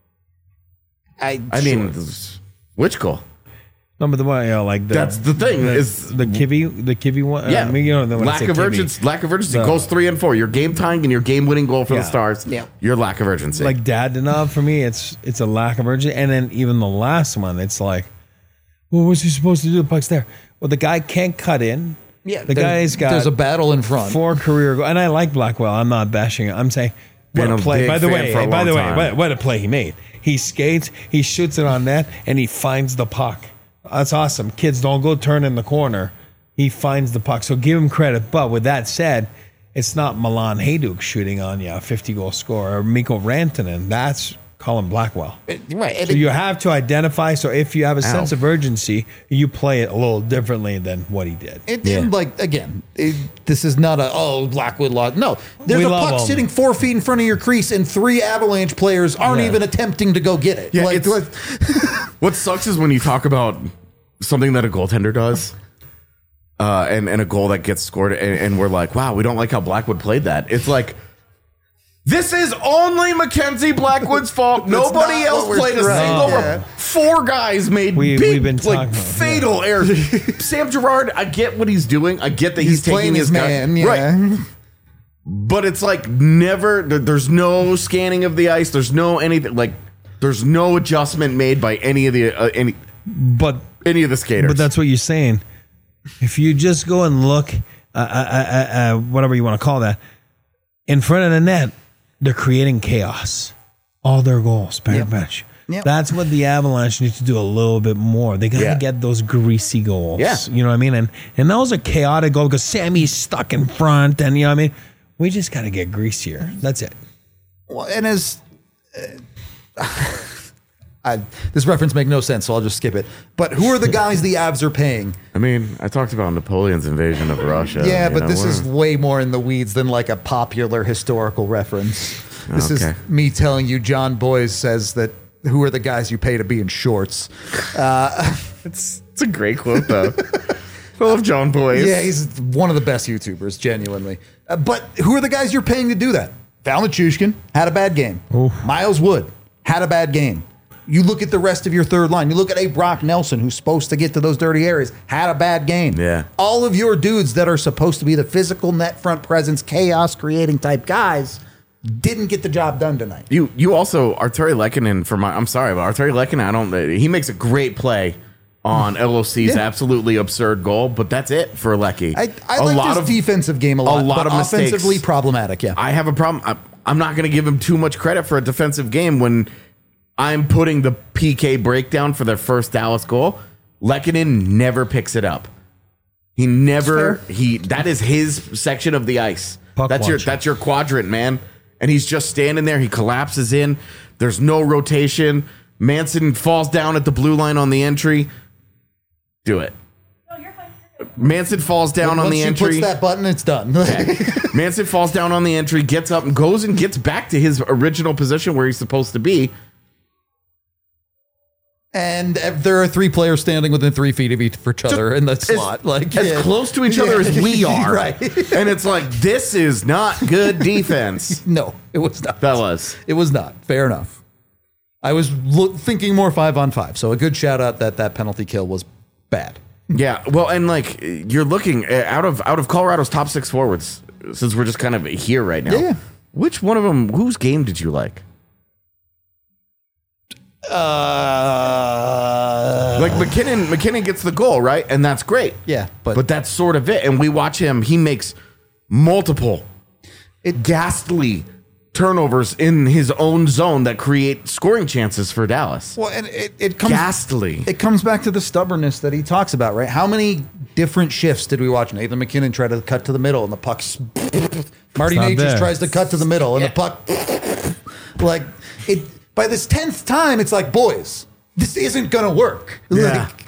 I mean, which goal? No, but the one, that's the thing is the Kivy one. Yeah, lack of urgency. Lack of urgency. Goals 3 and 4. Your game tying and your game winning goal for the Stars. Yeah, your lack of urgency. Like Dadonov for me, it's a lack of urgency. And then even the last one, it's like, well, what's he supposed to do? The puck's there. Well, the guy can't cut in. Yeah, the guy's got. There's a battle in front. 4 career goals, and I like Blackwell. I'm not bashing it. I'm saying what a play. By the way, what a play he made. He skates, he shoots it on net, and he finds the puck. That's awesome. Kids, don't go turn in the corner. He finds the puck. So give him credit. But with that said, it's not Milan Hajduk shooting on you, a 50-goal scorer, or Mikko Rantanen. That's Colin Blackwell. Right. So you have to identify. So if you have a sense of urgency, you play it a little differently than what he did. This is not Blackwood lost. No, there's a puck sitting 4 feet in front of your crease, and 3 Avalanche players aren't even attempting to go get it. Yeah, what sucks is when you talk about something that a goaltender does, and a goal that gets scored, and we're like, wow, we don't like how Blackwood played that. It's like, this is only Mackenzie Blackwood's fault. Nobody else played a single. 4 guys made fatal errors. Sam Girard, I get what he's doing. I get that he's taking his man, right. But it's like never. There's no scanning of the ice. There's no anything. Like there's no adjustment made by any of the any of the skaters. But that's what you're saying. If you just go and look, whatever you want to call that, in front of the net. They're creating chaos. All their goals, bench. Yep. That's what the Avalanche need to do a little bit more. They got to get those greasy goals. Yeah. You know what I mean? And those are chaotic goals because Sammy's stuck in front. And you know what I mean? We just got to get greasier. That's it. Well, and as... this reference makes no sense, so I'll just skip it. But who are the guys the Avs are paying? I mean, I talked about Napoleon's invasion of Russia. Yeah, but this is way more in the weeds than like a popular historical reference. This is me telling you John Boyes says that who are the guys you pay to be in shorts? It's a great quote, though. I love John Boyes. Yeah, he's one of the best YouTubers, genuinely. But who are the guys you're paying to do that? Val Nichushkin had a bad game. Oof. Miles Wood had a bad game. You look at the rest of your third line. You look at a Brock Nelson, who's supposed to get to those dirty areas, had a bad game. Yeah. All of your dudes that are supposed to be the physical net front presence, chaos creating type guys didn't get the job done tonight. You also, Arturi Lehkonen, I'm sorry, but Arturi Lehkonen, he makes a great play on LOC's absolutely absurd goal, but that's it for Lecky. I like his defensive game a lot but of mistakes. Offensively problematic, yeah. I have a problem. I'm not going to give him too much credit for a defensive game when I'm putting the PK breakdown for their first Dallas goal. Lehkonen never picks it up. That is his section of the ice. That's your quadrant, man. And he's just standing there. He collapses in. There's no rotation. Manson falls down at the blue line on the entry. Do it. Manson falls down on Once the she entry. puts that button, it's done. Manson falls down on the entry, gets up and goes and gets back to his original position where he's supposed to be. And there are 3 players standing within 3 feet of each other in the slot. Like as close to each other as we are. Right. And it's like, this is not good defense. No, it was not. Fellas. It was not. Fair enough. I was thinking more 5-on-5. So a good shout out that penalty kill was bad. Yeah, well, and like you're looking out of Colorado's top 6 forwards, since we're just kind of here right now. Yeah. Which one of them? Whose game did you like? Like McKinnon gets the goal, right, and that's great. Yeah, but that's sort of it. And we watch him; he makes multiple, ghastly turnovers in his own zone that create scoring chances for Dallas. Well, and it comes ghastly. It comes back to the stubbornness that he talks about, right? How many different shifts did we watch Nathan McKinnon try to cut to the middle and the puck's Marty Natchez tries to cut to the middle and the puck like it by this 10th time it's like, boys, this isn't gonna work. Yeah. Like,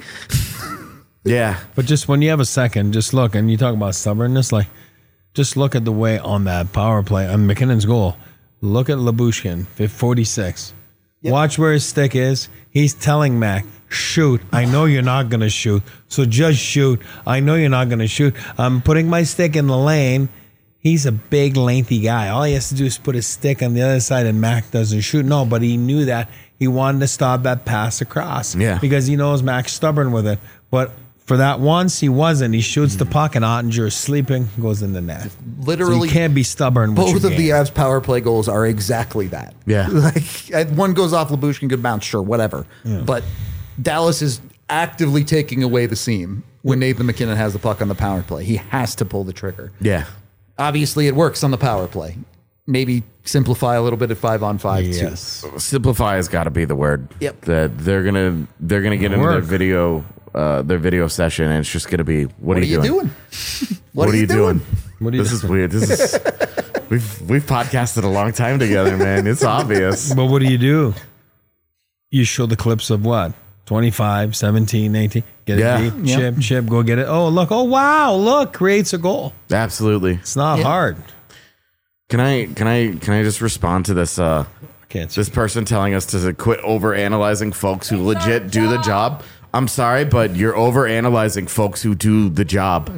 yeah. But just when you have a second, just look, and you talk about stubbornness, like just look at the way on that power play on McKinnon's goal. Look at Lyubushkin, 46. Yep. Watch where his stick is. He's telling Mac, shoot. I know you're not going to shoot, so just shoot. I know you're not going to shoot. I'm putting my stick in the lane. He's a big, lengthy guy. All he has to do is put his stick on the other side, and Mac doesn't shoot. No, but he knew that. He wanted to stop that pass across. Yeah. Because he knows Mac's stubborn with it. But for that once, he wasn't. He shoots the puck, and Ottinger is sleeping, goes in the net. Literally, so you can't be stubborn with both your of game. the Avs power play goals are exactly that. Yeah. Like one goes off Lyubushkin, good bounce, sure, whatever. Yeah. But Dallas is actively taking away the seam when Nathan McKinnon has the puck on the power play. He has to pull the trigger. Yeah. Obviously, it works on the power play. Maybe simplify a little bit at 5-on-5 Yes. too. Simplify has got to be the word. Yep. That they're gonna get into their video session, and it's just gonna be, what are you doing? What are you doing? This is weird. This is we've podcasted a long time together, man. It's obvious. But what do? You show the clips of what? 25, 17, 18. Get it deep, chip, go get it. Oh, look. Oh, wow. Look, creates a goal. Absolutely. It's not hard. Can I just respond to this this person telling us to quit over analyzing folks who legit do the job? I'm sorry, but you're over analyzing folks who do the job.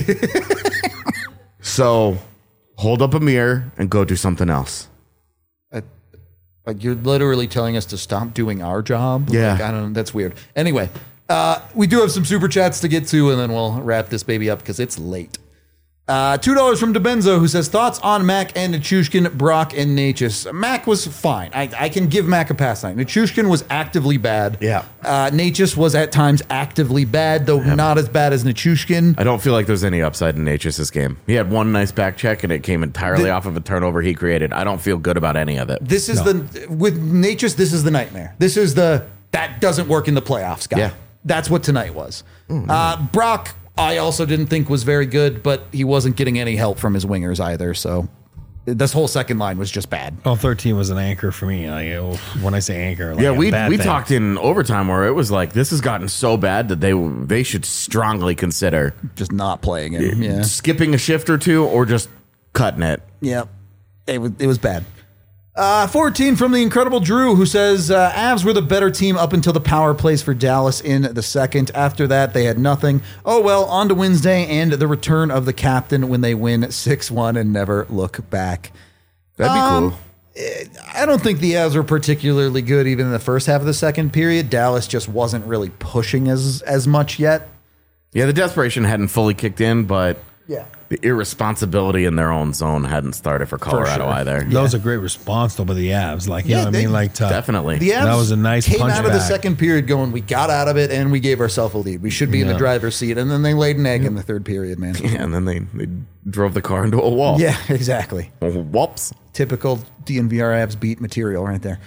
So hold up a mirror and go do something else. Like you're literally telling us to stop doing our job. Yeah. Like, I don't know. That's weird. Anyway, we do have some super chats to get to, and then we'll wrap this baby up because it's late. $2 from DeBenzo, who says, thoughts on Mac and Nichushkin, Brock, and Natchez. Mac was fine. I can give Mac a pass tonight. Nichushkin was actively bad. Yeah. Natchez was at times actively bad, though not as bad as Nichushkin. I don't feel like there's any upside in Natchez's game. He had one nice back check, and it came entirely off of a turnover he created. I don't feel good about any of it. This is with Natchez, this is the nightmare. This is that doesn't work in the playoffs guy. Yeah. That's what tonight was. Brock, I also didn't think was very good, but he wasn't getting any help from his wingers either. So this whole second line was just bad. Well, 13 was an anchor for me. When I say anchor, like We thing. talked in overtime where it was like, this has gotten so bad that they should strongly consider just not playing him. Yeah, skipping a shift or two, or just cutting it. Yeah, it was bad. 14 from the incredible Drew, who says Avs were the better team up until the power plays for Dallas in the second. After that, they had nothing. Oh, well, on to Wednesday and the return of the captain when they win 6-1 and never look back. That'd be cool. I don't think the Avs were particularly good even in the first half of the second period. Dallas just wasn't really pushing as much yet. Yeah, the desperation hadn't fully kicked in, but yeah, the irresponsibility in their own zone hadn't started for Colorado either. That was a great response, though, by the Avs. Like, you know what I mean? Like, definitely. The Avs that was a nice came punch out of the back. second period going, we got out of it and we gave ourselves a lead. We should be in the driver's seat. And then they laid an egg in the third period, man. Yeah, and then they drove the car into a wall. Yeah, exactly. Whoops. Typical DNVR Avs beat material right there.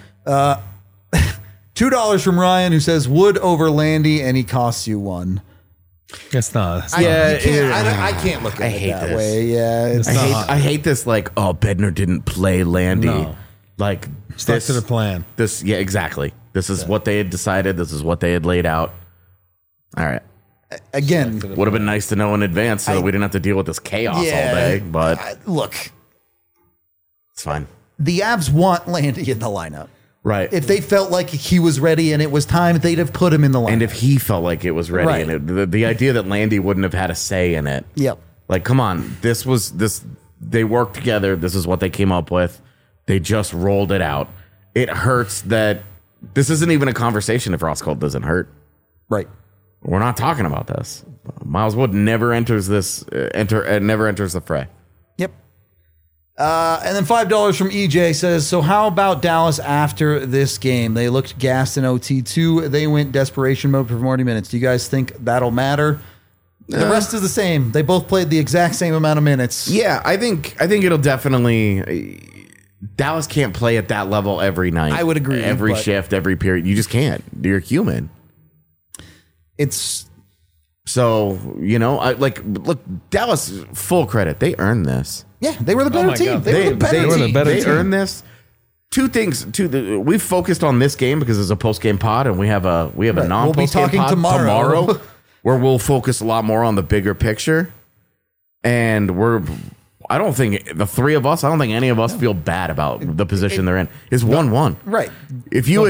$2 from Ryan, who says, Wood over Landy, and he costs you one. It's not. I can't look at it that this. way. Yeah, I hate this. Like, oh, Bednar didn't play Landy. No. Like, Stuck to the plan. Yeah, exactly. This is what they had decided. This is what they had laid out. All right. Again, would have been nice to know in advance so that we didn't have to deal with this chaos all day. But look, it's fine. The Avs want Landy in the lineup. Right. If they felt like he was ready and it was time, they'd have put him in the lineup. And if he felt like it was ready, Right. and the idea that Landy wouldn't have had a say in it. Yep. Like, come on, this. They worked together. This is what they came up with. They just rolled it out. It hurts that this isn't even a conversation if Ross Cole doesn't hurt. Right. We're not talking about this. Miles Wood never enters never enters the fray. Yep. And then $5 from EJ says, so how about Dallas after this game? They looked gassed in OT2. They went desperation mode for 40 minutes. Do you guys think that'll matter? The rest is the same. They both played the exact same amount of minutes. Yeah, I think it'll definitely. Dallas can't play at that level every night. I would agree. Every but shift, every period. You just can't. You're human. It's so, look, Dallas, full credit. They earned this. Yeah, they were the better team. God. They were the better team. They earned this. Two things. We've focused on this game because it's a post game pod, and we have a non post game pod tomorrow where we'll focus a lot more on the bigger picture. And I don't think the three of us. I don't think any of us feel bad about the position they're in. It's 1-1. Right. If you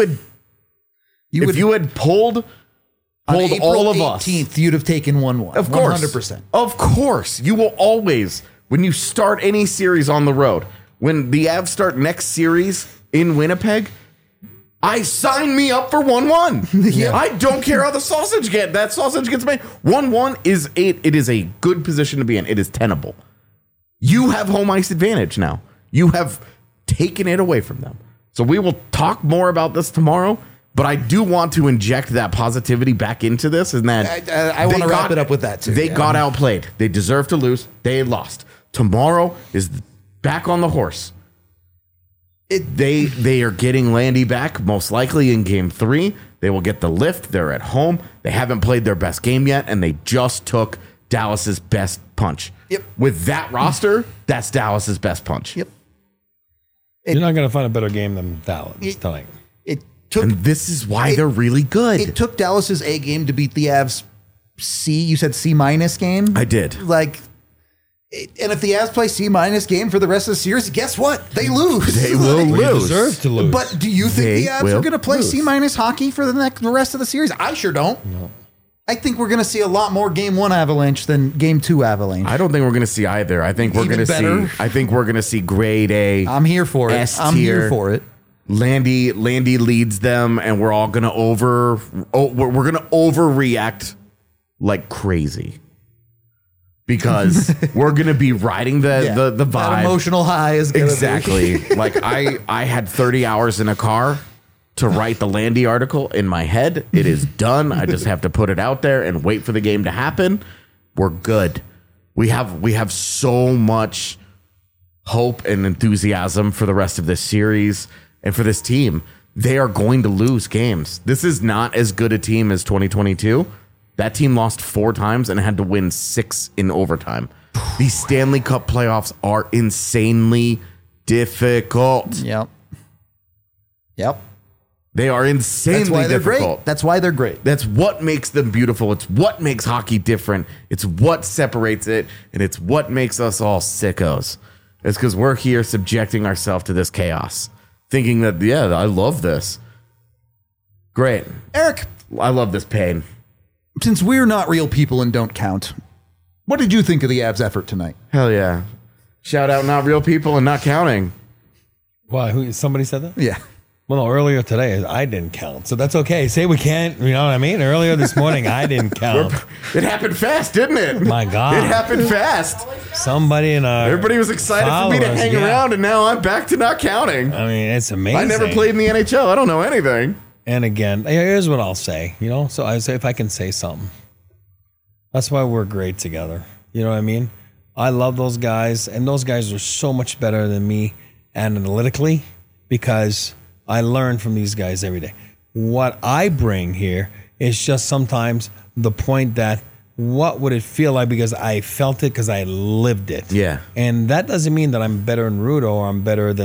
had pulled all of us, 18th, you'd have taken 1-1. Of course. 100%. Of course. You will always, when you start any series on the road, when the Avs start next series in Winnipeg, I sign me up for 1-1. Yeah. I don't care how that sausage gets made. 1-1 is a good position to be in. It is tenable. You have home ice advantage now. You have taken it away from them. So we will talk more about this tomorrow. But I do want to inject that positivity back into this, and that I want to wrap it up with that too. They got outplayed. They deserve to lose. They lost. Tomorrow is back on the horse. They are getting Landy back, most likely in game 3. They will get the lift. They're at home. They haven't played their best game yet, and they just took Dallas's best punch. Yep. With that roster, that's Dallas's best punch. Yep. You're not going to find a better game than Dallas tonight. And this is why they're really good. It took Dallas's A game to beat the Avs C. You said C- game? I did. And if the Avs play C- game for the rest of the series, guess what? They lose. They will lose. They deserve to lose. But do you think They the Avs will are going to play lose. C- hockey for the rest of the series? I sure don't. No. I think we're going to see a lot more Game 1 Avalanche than Game 2 Avalanche. I don't think we're going to see either. I think we're going to see. I think we're going to see grade A. I'm here for it. S I'm here tier. for it. Landy leads them, and we're all going to we're going to overreact like crazy because we're going to be riding the vibe. That emotional high is gonna Exactly. Be. Like I had 30 hours in a car to write the Landy article in my head. It is done. I just have to put it out there and wait for the game to happen. We're good. We have so much hope and enthusiasm for the rest of this series and for this team. They are going to lose games. This is not as good a team as 2022. That team lost 4 times and had to win 6 in overtime. These Stanley Cup playoffs are insanely difficult. Yep. They are insanely That's why they're difficult. great. That's why they're great. That's what makes them beautiful. It's what makes hockey different. It's what separates it, and it's what makes us all sickos. It's because we're here subjecting ourselves to this chaos, thinking that, yeah, I love this. Great. Eric, I love this pain. Since we're not real people and don't count, what did you think of the Avs' effort tonight? Hell yeah. Shout out not real people and not counting. Why? Somebody said that? Yeah. Well, no, earlier today, I didn't count. So that's okay. Say we can't, you know what I mean? Earlier this morning, I didn't count. It happened fast, didn't it? My God. It happened fast. Somebody in our Everybody was excited for me to hang around, and now I'm back to not counting. I mean, it's amazing. I never played in the NHL. I don't know anything. And again, here's what I'll say, So I say, if I can say something, that's why we're great together. You know what I mean? I love those guys, and those guys are so much better than me analytically because I learn from these guys every day. What I bring here is just sometimes the point that what would it feel like because I felt it because I lived it. Yeah. And that doesn't mean that I'm better than Rudo or I'm better than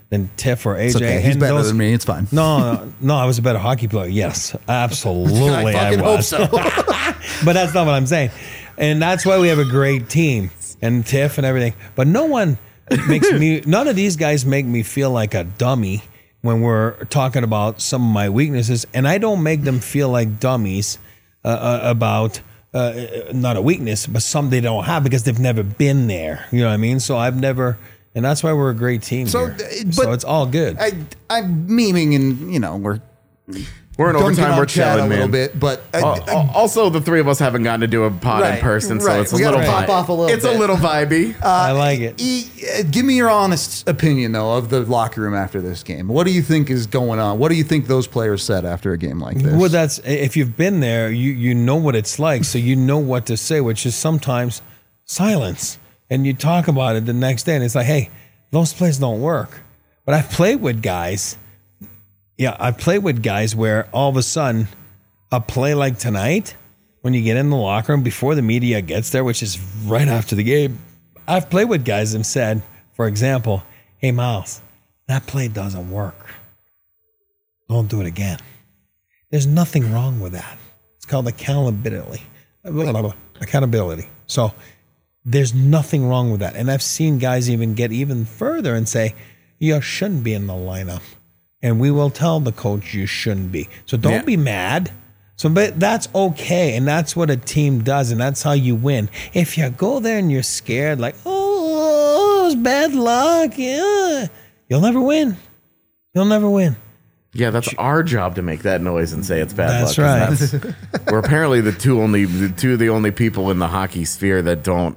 than Tiff or AJ. It's okay. He's And better than me. It's fine. No, I was a better hockey player. Yes, absolutely, I fucking was. hope so. But that's not what I'm saying. And that's why we have a great team and Tiff and everything. But none of these guys make me feel like a dummy when we're talking about some of my weaknesses. And I don't make them feel like dummies about not a weakness, but something they don't have because they've never been there. You know what I mean? So I've never, and that's why we're a great team here. So it's all good. I'm memeing and, we're in overtime. We're chatting chilling, a little man. bit, but also the three of us haven't gotten to do a pod in person, so it's a little vibey. It's a little vibey. I like it. Give me your honest opinion, though, of the locker room after this game. What do you think is going on? What do you think those players said after a game like this? Well, that's if you've been there, you know what it's like, so you know what to say, which is sometimes silence. And you talk about it the next day, and it's like, hey, those plays don't work. But I've played with guys. Yeah, I played with guys where all of a sudden, a play like tonight, when you get in the locker room before the media gets there, which is right after the game, I've played with guys and said, for example, hey, Miles, that play doesn't work. Don't do it again. There's nothing wrong with that. It's called accountability. Accountability. So there's nothing wrong with that. And I've seen guys even get even further and say, you shouldn't be in the lineup. And we will tell the coach you shouldn't be. So don't be mad. But that's okay. And that's what a team does. And that's how you win. If you go there and you're scared, like, oh, it's bad luck. Yeah. You'll never win. You'll never win. Yeah, that's our job to make that noise and say it's bad luck. That's right. We're apparently the two of the only people in the hockey sphere that don't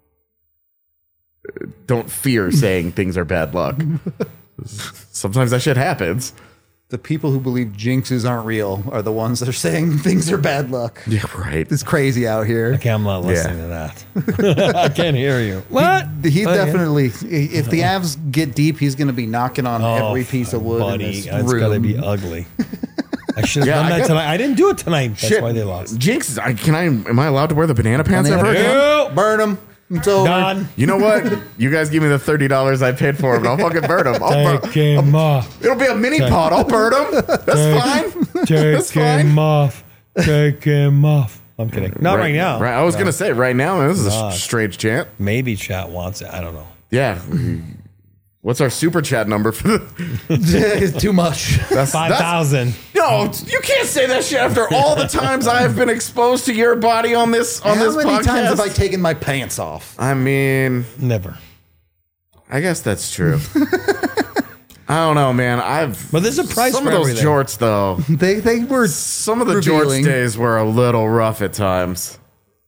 fear saying things are bad luck. Sometimes that shit happens. The people who believe jinxes aren't real are the ones that are saying things are bad luck. Yeah, right. It's crazy out here. Okay, I'm not listening to that. I can't hear you. What? He definitely, if the Avs get deep, he's going to be knocking on every piece of wood in this room. It's going to be ugly. I should have done that tonight. I didn't do it tonight. That's why they lost. Jinx, am I allowed to wear the banana pants ever again? No, burn them. It's over. Done. You know what? You guys give me the $30 I paid for them. I'll fucking burn them. Take him off. It'll be a mini pod. I'll burn them. That's fine. Take him off. Take him off. I'm kidding. Not right now. Right. I was going to say right now. This is a strange chant. Maybe chat wants it. I don't know. Yeah. What's our super chat number for It's too much. That's 5,000. No, you can't say that shit after all the times I have been exposed to your body on this How this many podcast. times have I taken my pants off? I mean, never. I guess that's true. I don't know, man. But there's a price some for of those everything. jorts though. They were some of the revealing. jorts days were a little rough at times.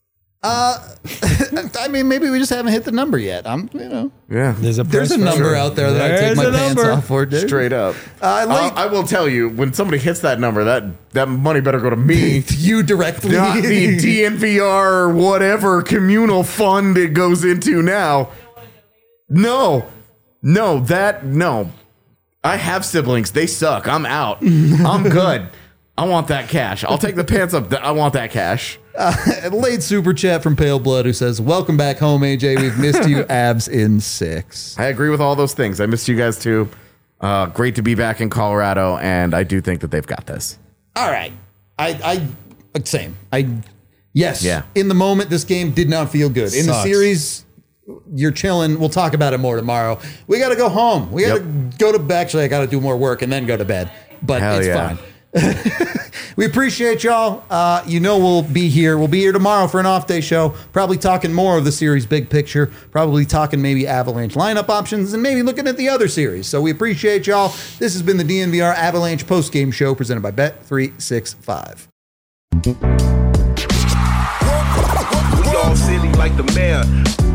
I mean, maybe we just haven't hit the number yet. Yeah. There's a number out there that I take my pants off for, dude. Straight up. I will tell you, when somebody hits that number, that money better go to me. You directly. Not the DNVR whatever communal fund it goes into now. No. I have siblings. They suck. I'm out. I'm good. I want that cash. I'll take the pants up. I want that cash. Late super chat from Pale Blood who says, welcome back home, AJ. We've missed you. Avs in 6. I agree with all those things. I missed you guys too. Great to be back in Colorado, and I do think that they've got this. All right. Same. Yes. Yeah. In the moment, this game did not feel good. In the Sucks. series, you're chilling. We'll talk about it more tomorrow. We got to go home. We got to go to bed. Actually, I got to do more work and then go to bed. But Hell it's yeah. fine. We appreciate y'all. We'll be here. We'll be here tomorrow for an off-day show. Probably talking more of the series big picture. Probably talking maybe Avalanche lineup options and maybe looking at the other series. So we appreciate y'all. This has been the DNVR Avalanche post-game show presented by Bet365. We all silly like the mayor.